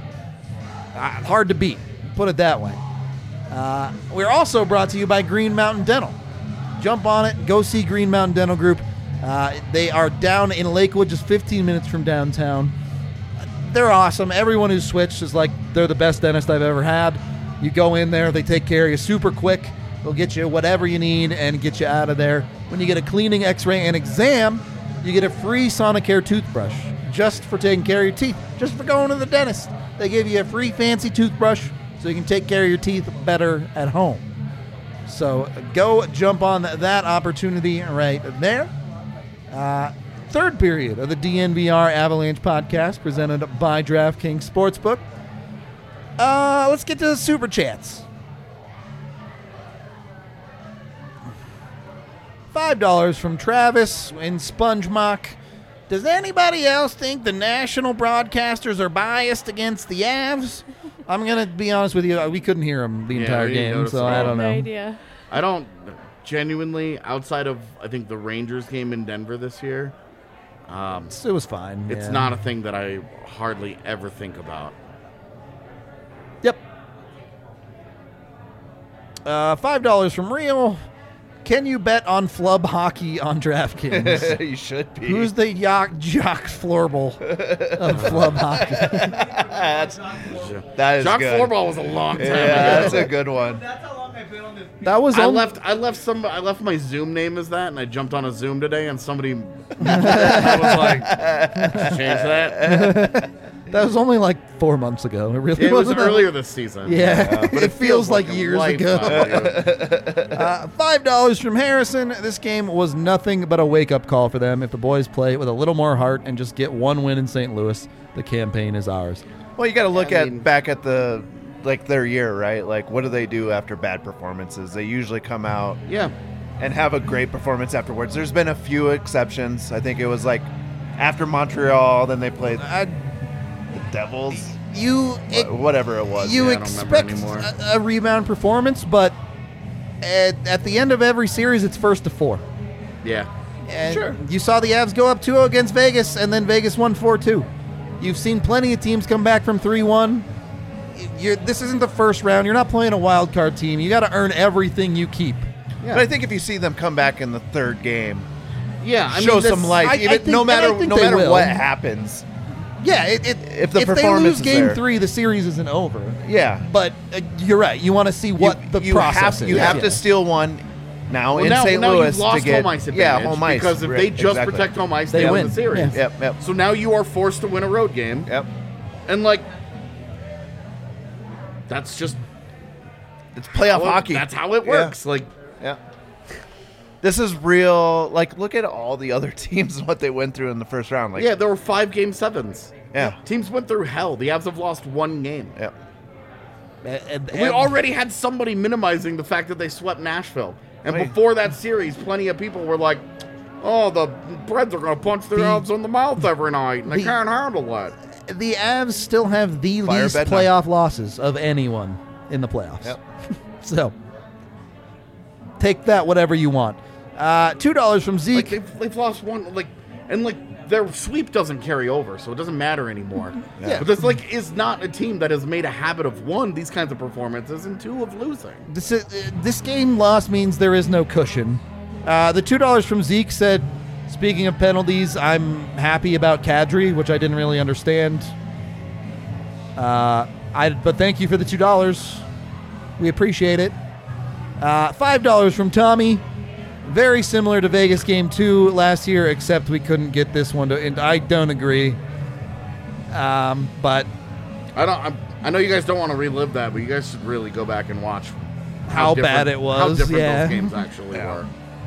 Uh, hard to beat. Put it that way. Uh, we're also brought to you by Green Mountain Dental. Jump on it. Go see Green Mountain Dental Group. Uh, they are down in Lakewood, just fifteen minutes from downtown. They're awesome. Everyone who's switched is like they're the best dentist I've ever had. You go in there, they take care of you super quick. They'll get you whatever you need and get you out of there. When you get a cleaning, x-ray, and exam, you get a free Sonicare toothbrush just for taking care of your teeth, just for going to the dentist. They give you a free fancy toothbrush so you can take care of your teeth better at home. So go jump on that opportunity right there. Uh, third period of the D N V R Avalanche podcast presented by DraftKings Sportsbook. Uh, let's get to the Super Chats. five dollars from Travis in Sponge Mock. Does anybody else think the national broadcasters are biased against the Avs? I'm going to be honest with you. We couldn't hear them the Yeah, entire we didn't game, notice so it. I I don't have no know. idea. I don't genuinely, outside of I think the Rangers game in Denver this year, um, It was fine. it's yeah. not a thing that I hardly ever think about. Yep. Uh, five dollars from Real. Can you bet on flub hockey on DraftKings? you should be. Who's the Jock Jock Floorball of flub hockey? That's, that is Jacques good. Floorball was a long time Yeah, ago. that's a good one. That's how long I've been on this. That was I on- left. I left some. I left my Zoom name as that, and I jumped on a Zoom today, and somebody I was like, change that. That was only like four months ago. It really It was wasn't that- earlier this season. Yeah, but it, feels, like, a years lifetime ago. ago. Uh, Five dollars from Harrison. This game was nothing but a wake-up call for them. If the boys play with a little more heart and just get one win in Saint Louis, the campaign is ours. Well, you got to look I at mean- back at the like their year, right? Like, what do they do after bad performances? They usually come out Yeah. and have a great performance afterwards. There's been a few exceptions. I think it was like after Montreal, then they played I, the Devils, you wha- whatever it was. you Yeah, I don't remember expect anymore. a, a rebound performance, but at, at the end of every series, it's first to four. Yeah. And Sure. you saw the Avs go up two oh against Vegas, and then Vegas won four two. You've seen plenty of teams come back from three one. You're, this isn't the first round. You're not playing a wild card team. You got to earn everything you keep. Yeah. But I think if you see them come back in the third game, Yeah. I show mean, some this- life. I- I even think- no and I matter think no they matter will. what happens. Yeah, it, it, If the if they performance lose is game there. three, the series isn't over. Yeah, But uh, you're right. You want to see what you, the you process have, is. You have Yeah. to steal one now Well, in now, Saint now Louis you've lost to get home ice yeah advantage home ice because if right, they just exactly. protect home ice, They they, win. win the series. Yeah. Yep, yep, So now you are forced to win a road game, yep. and like that's just It's playoff well, hockey. That's how it Yeah. works. Like Yeah. This is real. Like, look at all the other teams and what they went through in the first round. Like, yeah, there were five game sevens. Yeah. Teams went through hell. The Avs have lost one game. yeah. And- and- We and- already had somebody minimizing the fact that they swept Nashville. And Right. before that series, plenty of people were like, oh, the Preds are going to punch their The- elves in the mouth every night, and they the- can't handle it. The Avs still have the Fire least Bednar. playoff losses of anyone in the playoffs. Yep. So take that whatever you want. Uh, Two dollars from Like Zeke. they've, they've lost one, like, and like their sweep doesn't carry over, so it doesn't matter anymore. Yeah. But this like is not a team that has made a habit of one these kinds of performances and two of losing. This is, uh, this game loss means there is no cushion. Uh, the two dollars from Zeke said, speaking of penalties, I'm happy about Kadri, which I didn't really understand. Uh, I but thank you for the two dollars. We appreciate it. Uh, five dollars from Tommy. Very similar to Vegas Game Two last year, except we couldn't get this one to. And I don't agree. Um, but I don't. I'm, I know you guys don't want to relive that, but you guys should really go back and watch How bad different- it was, How different yeah. those games actually Yeah. were.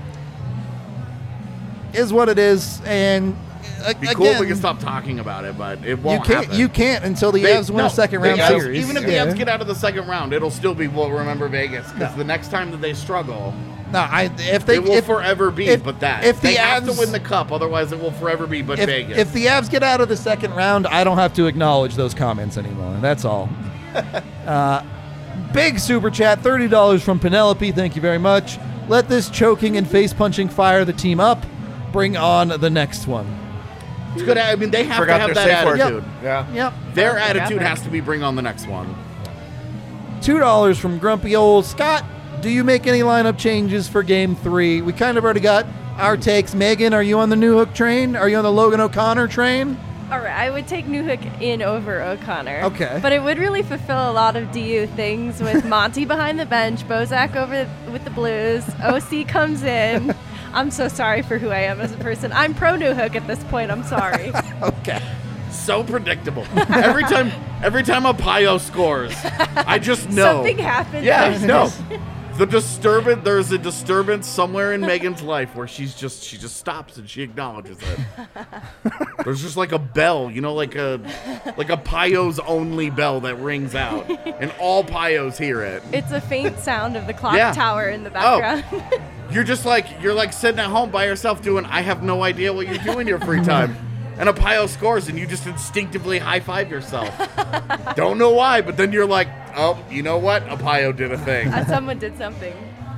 is what it is, and uh, It'd be again, cool if we could stop talking about it, but it you won't can't. happen. You can't until the They- Avs win no, a second the round Avs- series. Even if the Yeah. Avs get out of the second round, it'll still be we'll remember Vegas because the next time that they struggle, No, I if they it will if, forever be if- but that. if the they have to Avs- win the cup, otherwise it will forever be but if, Vegas. if the Avs get out of the second round, I don't have to acknowledge those comments anymore. That's all. uh, big super chat, thirty dollars from Penelope. Thank you very much. Let this choking and face punching fire the team up. Bring on the next one. It's good. I mean, they have Forgot to have their that safe word. attitude. Yeah. Yep. Their I forgot attitude that. has to be bring on the next one. Two dollars from Grumpy Old Scott. Do you make any lineup changes for Game Three? We kind of already got our takes. Megan, are you on the New Hook train? Are you on the Logan O'Connor train? All right, I would take Newhook in over O'Connor. Okay. But it would really fulfill a lot of D U things with Monty behind the bench, Bozak over with the Blues, O C comes in. I'm so sorry for who I am as a person. I'm pro Newhook at this point. I'm sorry. Okay. So predictable. every time, every time a Pio scores, I just know Something happens. Yeah, no. The disturbance. There's a disturbance somewhere in Megan's life where she's just she just stops and she acknowledges it. There's just like a bell, you know, like a like a Pio's only bell that rings out, and all Pios hear it. It's a faint sound of the clock Yeah. tower in the Oh. background. You're just like you're like sitting at home by yourself doing. I have no idea what you do in your free time. And a Pio scores, and you just instinctively high five yourself. Don't know why, but then you're like, oh, you know what? A Pio did a thing. Uh, Someone did something.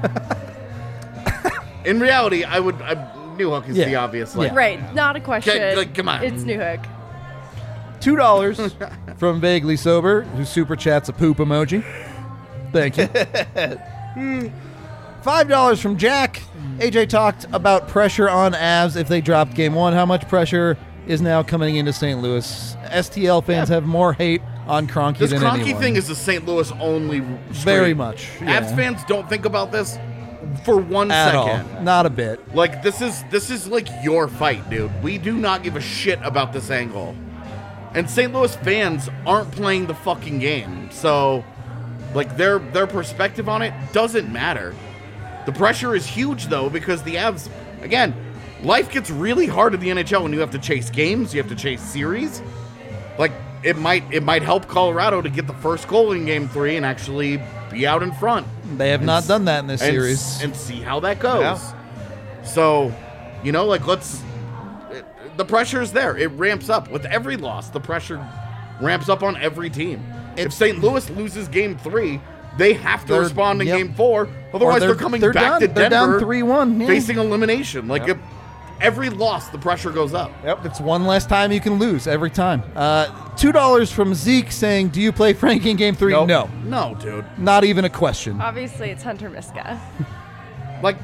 In reality, I would. I, New Hook is Yeah. the obvious. Like, Yeah. Right, not a question. like, come on. It's Newhook. Two dollars from Vaguely Sober, who super chats a poop emoji. Thank you. Five dollars from Jack. A J talked about pressure on Avs if they dropped game one. How much pressure is now coming into Saint Louis? S T L fans have more hate on Kroenke This than Kroenke anyone. thing is a Saint Louis only. Very stream. much, Avs yeah. fans don't think about this for one at second. all. Not a bit. Like this is this is like your fight, dude. We do not give a shit about this angle. And Saint Louis fans aren't playing the fucking game. So like their their perspective on it doesn't matter. The pressure is huge though because the Avs again, life gets really hard in the N H L when you have to chase games, you have to chase series. Like it might it might help Colorado to get the first goal in game three and actually be out in front. They have And not s- done that in this and, series. s- and see how that goes. Yeah. So, you know, like let's. It, the pressure is there. It ramps up with every loss. The pressure ramps up on every team. if Saint Louis loses Game Three, they have to They're- respond in yep. Game Four. Otherwise, Or they're, they're- coming they're back down- to they're Denver, down three one, yeah. facing elimination. Like Yep. if every loss, the pressure goes up. Yep, it's one less time you can lose every time. Uh, Two dollars from Zeke saying, "Do you play Frankie in Game Three?" Nope. No, No, dude. not even a question. Obviously, it's Hunter Miska. Like,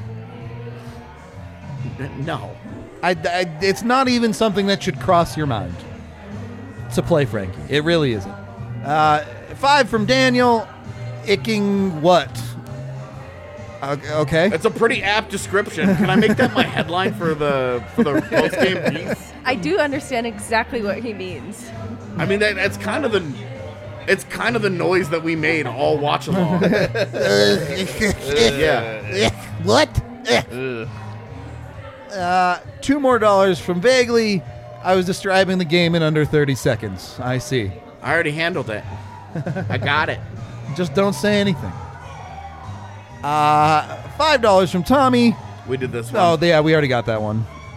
n- no. I, I- it's not even something that should cross your mind to play Frankie. It really isn't. Uh, five from Daniel. Icking what? Uh, okay. It's a pretty apt description. Can I make that my headline for the for the post game piece? I do understand exactly what he means. I mean, that, that's kind of the it's kind of the noise that we made all watch along. yeah. What? Uh, two more dollars from Vaguely. I was describing the game in under thirty seconds. I see. I already handled it. I got it. Just don't say anything. Uh, five dollars from Tommy. We did this one. Oh, yeah, we already got that one.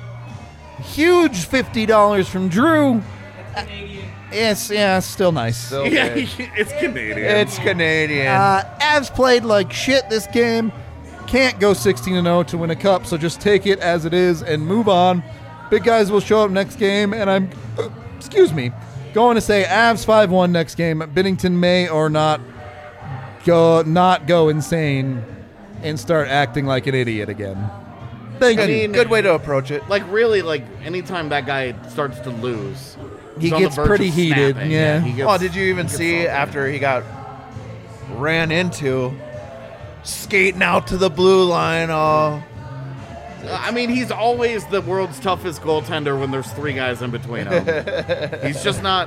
Huge fifty dollars from Drew. Canadian. Yes, yeah, still nice. Still Yeah, big. it's Canadian. It's Canadian. Uh, Avs played like shit this game. Can't go sixteen and oh to win a cup, so just take it as it is and move on. Big guys will show up next game, and I'm, uh, excuse me, going to say Avs five one next game. Binnington may or not go not go insane and start acting like an idiot again. Thank I you. mean, Good way to approach it. Like, really, like, anytime that guy starts to lose, He he's on the gets verge pretty of heated, snapping. yeah. he gets- Oh, did you even he gets see salty. after he got ran into, skating out to the blue line? Oh, I mean, he's always the world's toughest goaltender when there's three guys in between him. He's just not.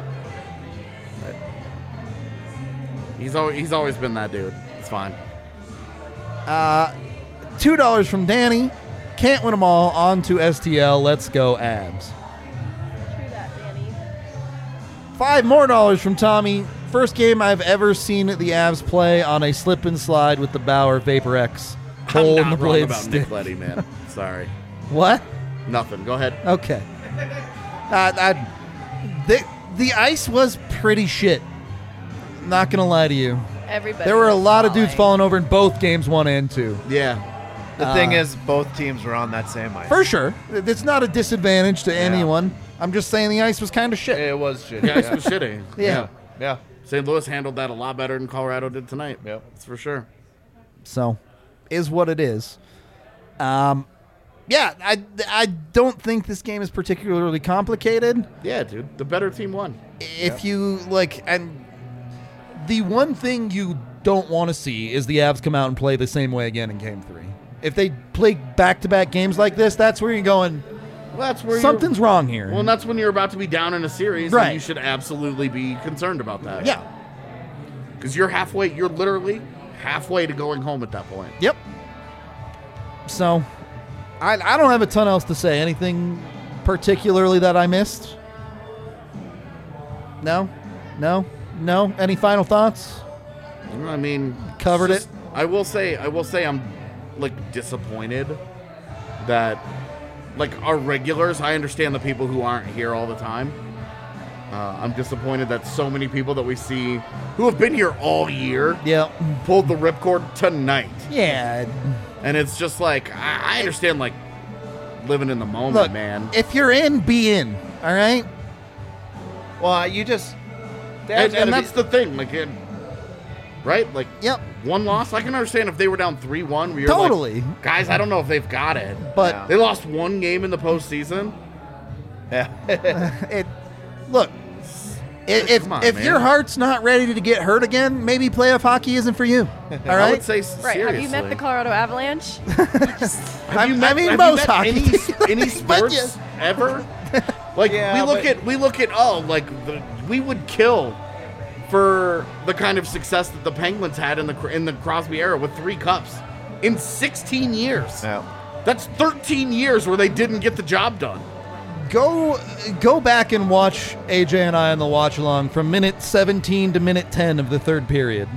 He's always, he's always been that dude. It's fine. Uh, two dollars from Danny. Can't win them all. On to S T L. Let's go, Abs. True that, Danny. Five more dollars from Tommy. First game I've ever seen the Avs play on a slip and slide with the Bauer Vapor X. Hole I'm in not the wrong blade about stick. Nick Leddy, man. Sorry. What? Nothing. Go ahead. Okay. Uh, I, the, the ice was pretty shit. Not going to lie to you. Everybody. There were a was lot of dudes falling. falling over in both games, one and two. Yeah. the Uh, thing is, both teams were on that same ice. For sure. It's not a disadvantage to anyone. I'm just saying the ice was kind of shit. It was shit. Yeah, it's been shitty. Yeah. Yeah. Saint Louis handled that a lot better than Colorado did tonight. Yep. That's for sure. So, is what it is. Um, yeah, I, I don't think this game is particularly complicated. Yeah, dude. The better team won. If you, like, and the one thing you don't want to see is the Avs come out and play the same way again in game three. If they play back-to-back games like this, that's where you're going, Well, that's where something's you're, wrong here. Well, and that's when you're about to be down in a series, Right. and you should absolutely be concerned about that. yeah. Because you're halfway, you're literally halfway to going home at that point. Yep. So, I, I don't have a ton else to say. Anything particularly that I missed? No? No? No? Any final thoughts? I mean, Covered it's it. just- I will say, I will say, I'm like disappointed that, like, our regulars. I understand the people who aren't here all the time. Uh, I'm disappointed that so many people that we see who have been here all year Yeah. pulled the ripcord tonight, Yeah. and it's just like I, I understand, like, living in the moment, Look, man. if you're in, be in. All right? Well, you just. And, and that's the thing, like, it, right? Like, Yep. one loss. I can understand if they were down three one. Where you're Totally. like, guys, I don't know if they've got it. But Yeah. They lost one game in the postseason. Yeah. it, look, i- if Come on, if man. your heart's not ready to get hurt again, maybe playoff hockey isn't for you. All I right? would say s- Right. seriously. Have you met the Colorado Avalanche? Have you I- met, I mean, have most you met hockey. any, any But sports yes. ever? Like, Yeah, we look but- at we look at oh, like the, we would kill for the kind of success that the Penguins had in the in the Crosby era with three cups in sixteen years. Yeah. That's thirteen years where they didn't get the job done. Go go back and watch A J and I on the watch along from minute seventeen to minute ten of the third period.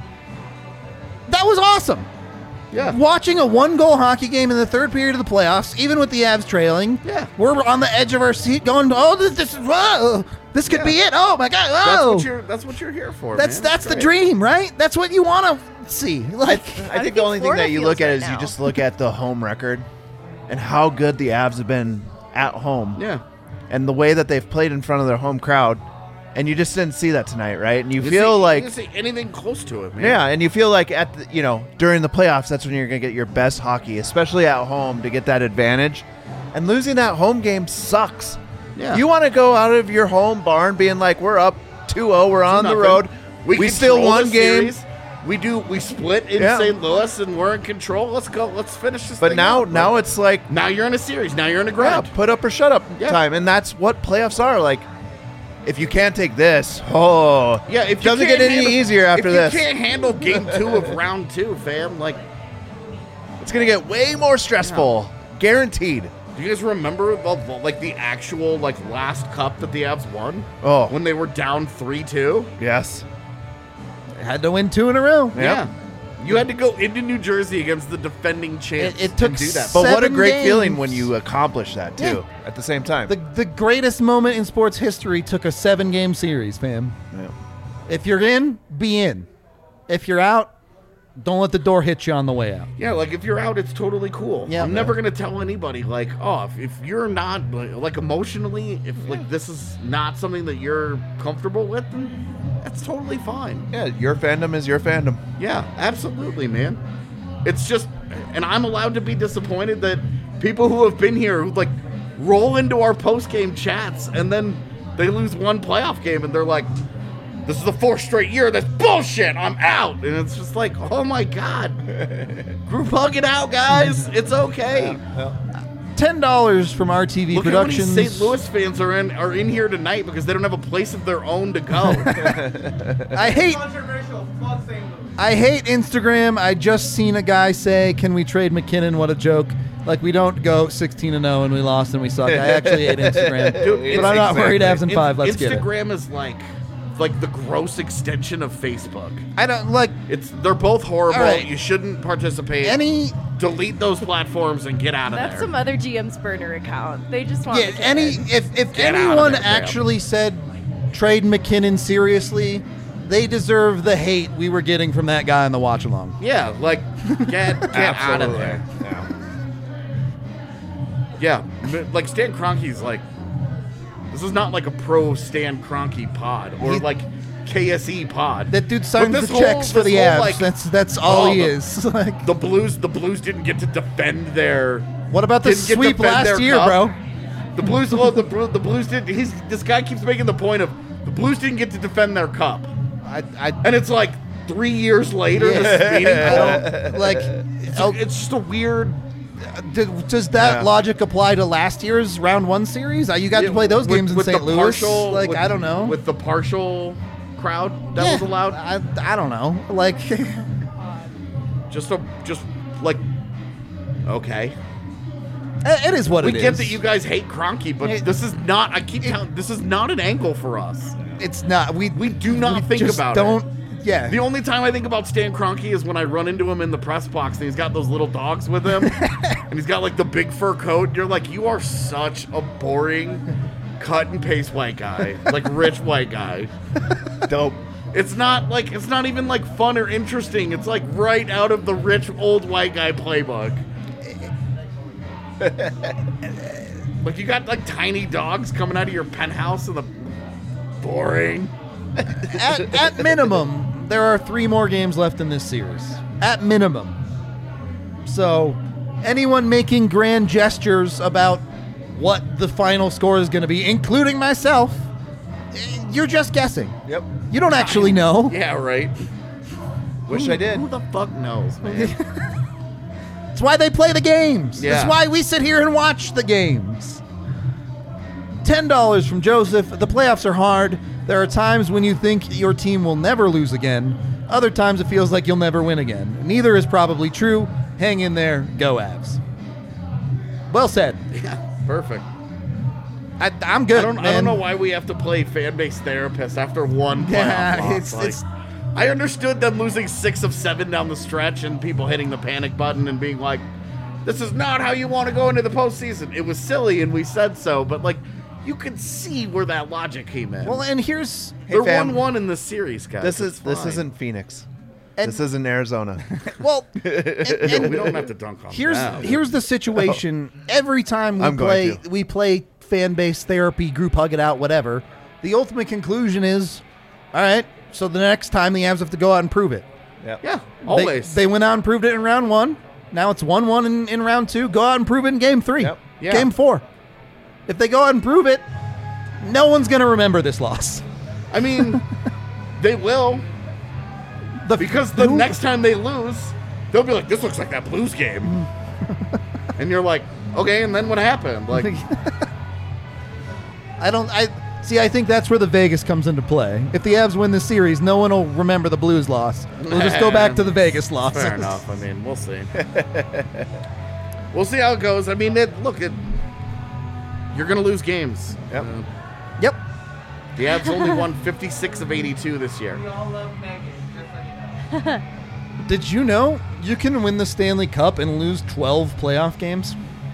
That was awesome. Yeah. Watching a one goal hockey game in the third period of the playoffs, even with the Avs trailing. Yeah. We're on the edge of our seat going, oh, this, this is, whoa, this could be it. Oh, my God. That's Oh. what you're that's what you're here for. That's man. that's the Great. dream, right? That's what you want to see. Like, I think the only thing Florida that you feels look at right is you now? just look at the home record and how good the Avs have been at home. Yeah. And the way that they've played in front of their home crowd. And you just didn't see that tonight, right? And you, You feel see, like you didn't see anything close to it, man. yeah, and you feel like at the, you know, during the playoffs that's when you're going to get your best hockey, especially at home to get that advantage. And losing that home game sucks. Yeah. You want to go out of your home barn being like we're up two oh, we're on the Nothing. road. We, We, still control won the game. series. We do. We split in Yeah. Saint Louis, and we're in control. Let's go. Let's finish this. But thing now out. now Like, it's like now you're in a series. Now you're in a yeah, grind. put up or shut up Yeah. time, and that's what playoffs are. Like, if you can't take this, oh, Yeah, if it you doesn't can't get any handle- easier after if this. you can't handle game two of round two, fam, like, It's gonna get way more stressful, guaranteed. do you guys remember the, the- like the actual like last cup that the Avs won Oh, when they were down three two? yes, had to win two in a row. Yep. Yeah, You had to go into New Jersey against the defending champs. It, it took and do that. But what a seven great games. feeling when you accomplish that too Yeah. at the same time. The the greatest moment in sports history took a seven game series, fam. Yeah. If you're in, be in. If you're out, don't let the door hit you on the way out. Yeah, like if you're out, it's totally cool. Yeah. I'm never gonna tell anybody like, oh, if, if you're not like, like emotionally, if like this is not something that you're comfortable with, then that's totally fine. Yeah, your fandom is your fandom. Yeah, absolutely, man. It's just, and I'm allowed to be disappointed that people who have been here who like roll into our post game chats and then they lose one playoff game and they're like, this is the fourth straight year. That's bullshit. I'm out. And it's just like, oh my God. Group hug it out, guys. It's okay. Ten dollars from R T V Look Productions. at how many Saint Louis fans are in are in here tonight because they don't have a place of their own to go. I hate Controversial. Fuck Saint Louis. I hate Instagram. I just seen a guy say, "Can we trade McKinnon?" What a joke. Like, we don't go sixteen and oh and we lost and we suck. I actually hate Instagram. Dude, but I'm not worried Avs in In- five. Let's get it. Instagram is like like the gross extension of Facebook. I don't like It's they're both horrible. All right. You shouldn't participate. any Delete those platforms and get out of That's there. some other G M's burner account. They just want yeah, McKinnon. any if if Get out of anyone there, Graham. actually said trade McKinnon seriously, they deserve the hate we were getting from that guy in the watch along. Yeah, like get get out of there. Yeah, m- like Stan Kroenke's like this is not like a pro Stan Kroenke pod or He- like K S E pod. That dude signs But the this whole- checks for this the whole, Avs. like, that's that's all oh, he the- is. Like, The Blues, the Blues didn't get to defend their. what about the didn't get to sweep defend last their year, cup. bro? The Blues, well, the Bru- the Blues did. He's this guy keeps making the point of the Blues didn't get to defend their cup, I, I, and it's like three years later. Yeah. This is I meaningful. don't like. It's, oh, it's just a weird. d- does that Yeah. logic apply to last year's round one series? Uh, You got to play those with- games in with Saint the Louis. partial- like with- I don't know. with the partial crowd that Yeah, was allowed. I, I don't know. Like Just a just like okay. it is what We it is. get that you guys hate Kroenke, but It- this is not. I keep telling. This is not an angle for us. It's not. We We do not we think just about don't, it. Yeah. The only time I think about Stan Kroenke is when I run into him in the press box and he's got those little dogs with him and he's got like the big fur coat. You're like, you are such a boring cut and paste white guy, like rich white guy. Dope. It's not like it's not even like fun or interesting. It's like right out of the rich old white guy playbook. Like you got like tiny dogs coming out of your penthouse and the boring. at, at minimum, there are three more games left in this series. At minimum. So, anyone making grand gestures about what the final score is going to be, including myself, eh, you're just guessing. Yep. You don't actually know. Yeah, right. Wish Who- I did. Who the fuck knows, man? It's why they play the games. Yeah. It's why we sit here and watch the games. ten dollars from Joseph. The playoffs are hard. There are times when you think your team will never lose again. Other times it feels like you'll never win again. Neither is probably true. Hang in there. Go Avs. Well said. Yeah, perfect. I, I'm good, I don't. man. I don't know why we have to play fan base therapist after one playoff Yeah, loss. it's- Like, it's- I understood them losing six of seven down the stretch and people hitting the panic button and being like, "This is not how you want to go into the postseason." It was silly, and we said so, but like, you could see where that logic came in. Well, and here's They're fam. one one in the series, guys. This It's is this fine. isn't Phoenix. And- this isn't Arizona. well. and- and We don't have to dunk on Here's them. here's the situation. Every time we I'm going play to. we play fan base therapy, group hug it out, whatever. The ultimate conclusion is, all right. So the next time the Avs have to go out and prove it. Yep. Yeah, They- always. They, went out and proved it in round one. Now it's one one in, in round two. Go out and prove it in game three. Yep. Yeah. Game four. If they go out and prove it, no one's gonna remember this loss. I mean, they will. The, Because the who- next time they lose, they'll be like, "This looks like that Blues game," and you're like, "Okay." And then what happened? Like, I don't. I see. I think that's where the Vegas comes into play. If the Avs win this series, no one will remember the Blues loss. We'll just go back to the Vegas loss. fair enough. I mean, we'll see. We'll see how it goes. I mean, it, look, it, you're gonna lose games. Yep. Uh, Yep. the Avs only won fifty-six of eighty-two this year. We all love Megan, just like that. Did you know you can win the Stanley Cup and lose twelve playoff games?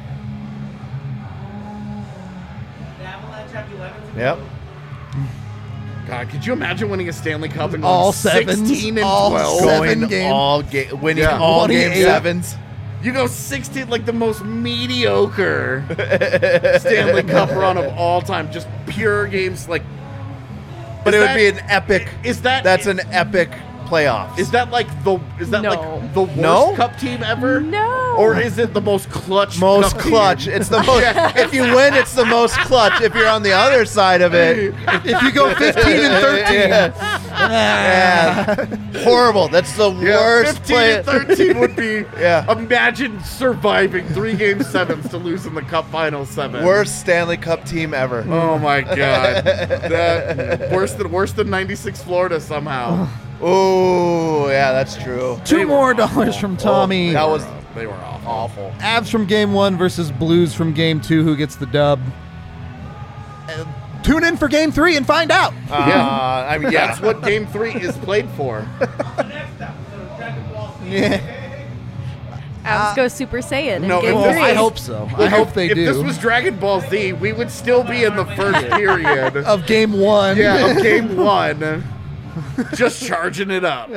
The Avalanche have eleven to Yep. go. God, could you imagine winning a Stanley Cup and All going sevens, sixteen and all twelve? seven. Going game. all ga- winning Yeah. all game twenty-eight. sevens. You go sixteen, like the most mediocre Stanley Cup run of all time. Just pure games, like. But is it would that- be an epic. Is that That's an epic playoffs. Is that like the is that No. like the worst No? Cup team ever? No. Or is it the most clutch? most Cup clutch? team? It's the most. If you win, it's the most clutch. If you're on the other side of it, If you go fifteen and thirteen, yeah, horrible. That's the Yeah, worst fifteen play. and thirteen would be. Yeah. Imagine surviving three game sevens to lose in the Cup final seven. Worst Stanley Cup team ever. Oh my God. That worse than worse than ninety-six Florida somehow. Oh, yeah, that's true. two more dollars from Tommy. That was They were awful. awful. Avs from game one versus Blues from game two. Who gets the dub? Uh, tune in for game three and find out. Uh, I mean, yeah. That's what game three is played for. The next episode of Dragon Ball Z. Yeah. Avs go Super Saiyan in no, game if Well, this- three. I hope so. I hope they if do. this was Dragon Ball Z, we would still be in the first period. of game one. Yeah, of game one. Just charging it up.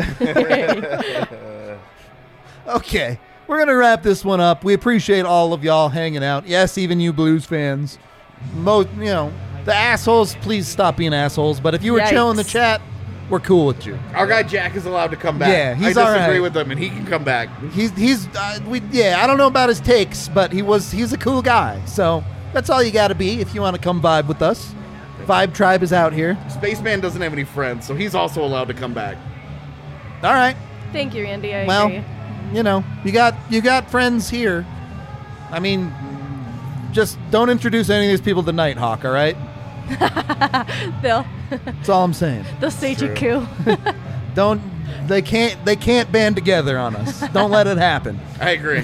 Okay. We're going to wrap this one up. We appreciate all of y'all hanging out. Yes, even you Blues fans. Most, you know, the assholes, please stop being assholes. But if you were chill in the Yikes. chat, we're cool with you. Our guy Jack is allowed to come back. Yeah, he's I all disagree right. with him, and he can come back. He's he's uh, we yeah. I don't know about his takes, but he was he's a cool guy. So that's all you got to be if you want to come vibe with us. Vibe Tribe is out here. Spaceman doesn't have any friends, so he's also allowed to come back. All right. Thank you, Randy. I Well, agree. you know, you got you got friends here. I mean, just don't introduce any of these people to Nighthawk. All right. They'll That's all I'm saying. they'll stage a True. coup. Don't they can't they can't band together on us. Don't let it happen. I agree.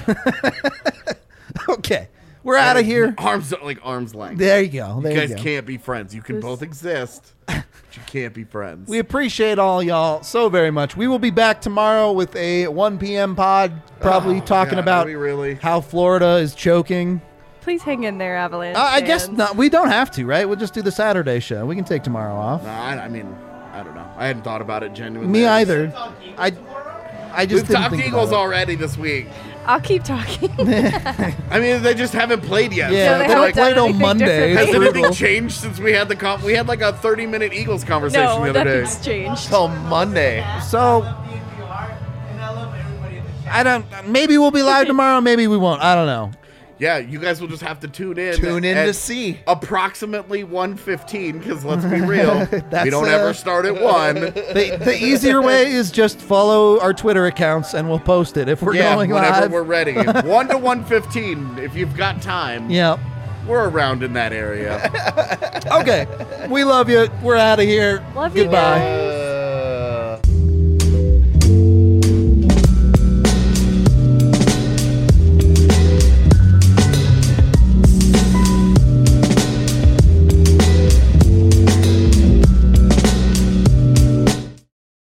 Okay, we're out of here. Arms like arms length. There you go. There you you, guys go. can't be friends. You can This- both exist, but you can't be friends. We appreciate all y'all so very much. We will be back tomorrow with a one p.m. pod, probably Oh, talking God, about are we really? how Florida is choking. Please hang in there, Avalanche. Uh, I guess fans. not. We don't have to, right? We'll just do the Saturday show. We can take tomorrow off. No, I, I mean, I don't know. I hadn't thought about it genuinely. Me either. Talk Eagles I, tomorrow? I just We've didn't talked think Eagles about it. already this week. I'll keep talking. I mean, they just haven't played yet. Yeah, No, they they don't haven't play done till anything Monday. differently. Has It's anything brutal. changed since we had the comp? We had like a thirty-minute Eagles conversation no, the other day. nothing's changed. Till Monday. So Love the N B R, and I love everybody in the chat. I don't. Maybe we'll be live tomorrow. Maybe we won't. I don't know. Yeah, you guys will just have to tune in. Tune in at to see. approximately one fifteen, because let's be real, That's, we don't uh, ever start at one. The, the easier way is just follow our Twitter accounts and we'll post it if we're yeah, going whenever live. we're ready. one to one fifteen, if you've got time. Yeah. We're around in that area. Okay. We love you. We're out of here. Love you Goodbye. guys.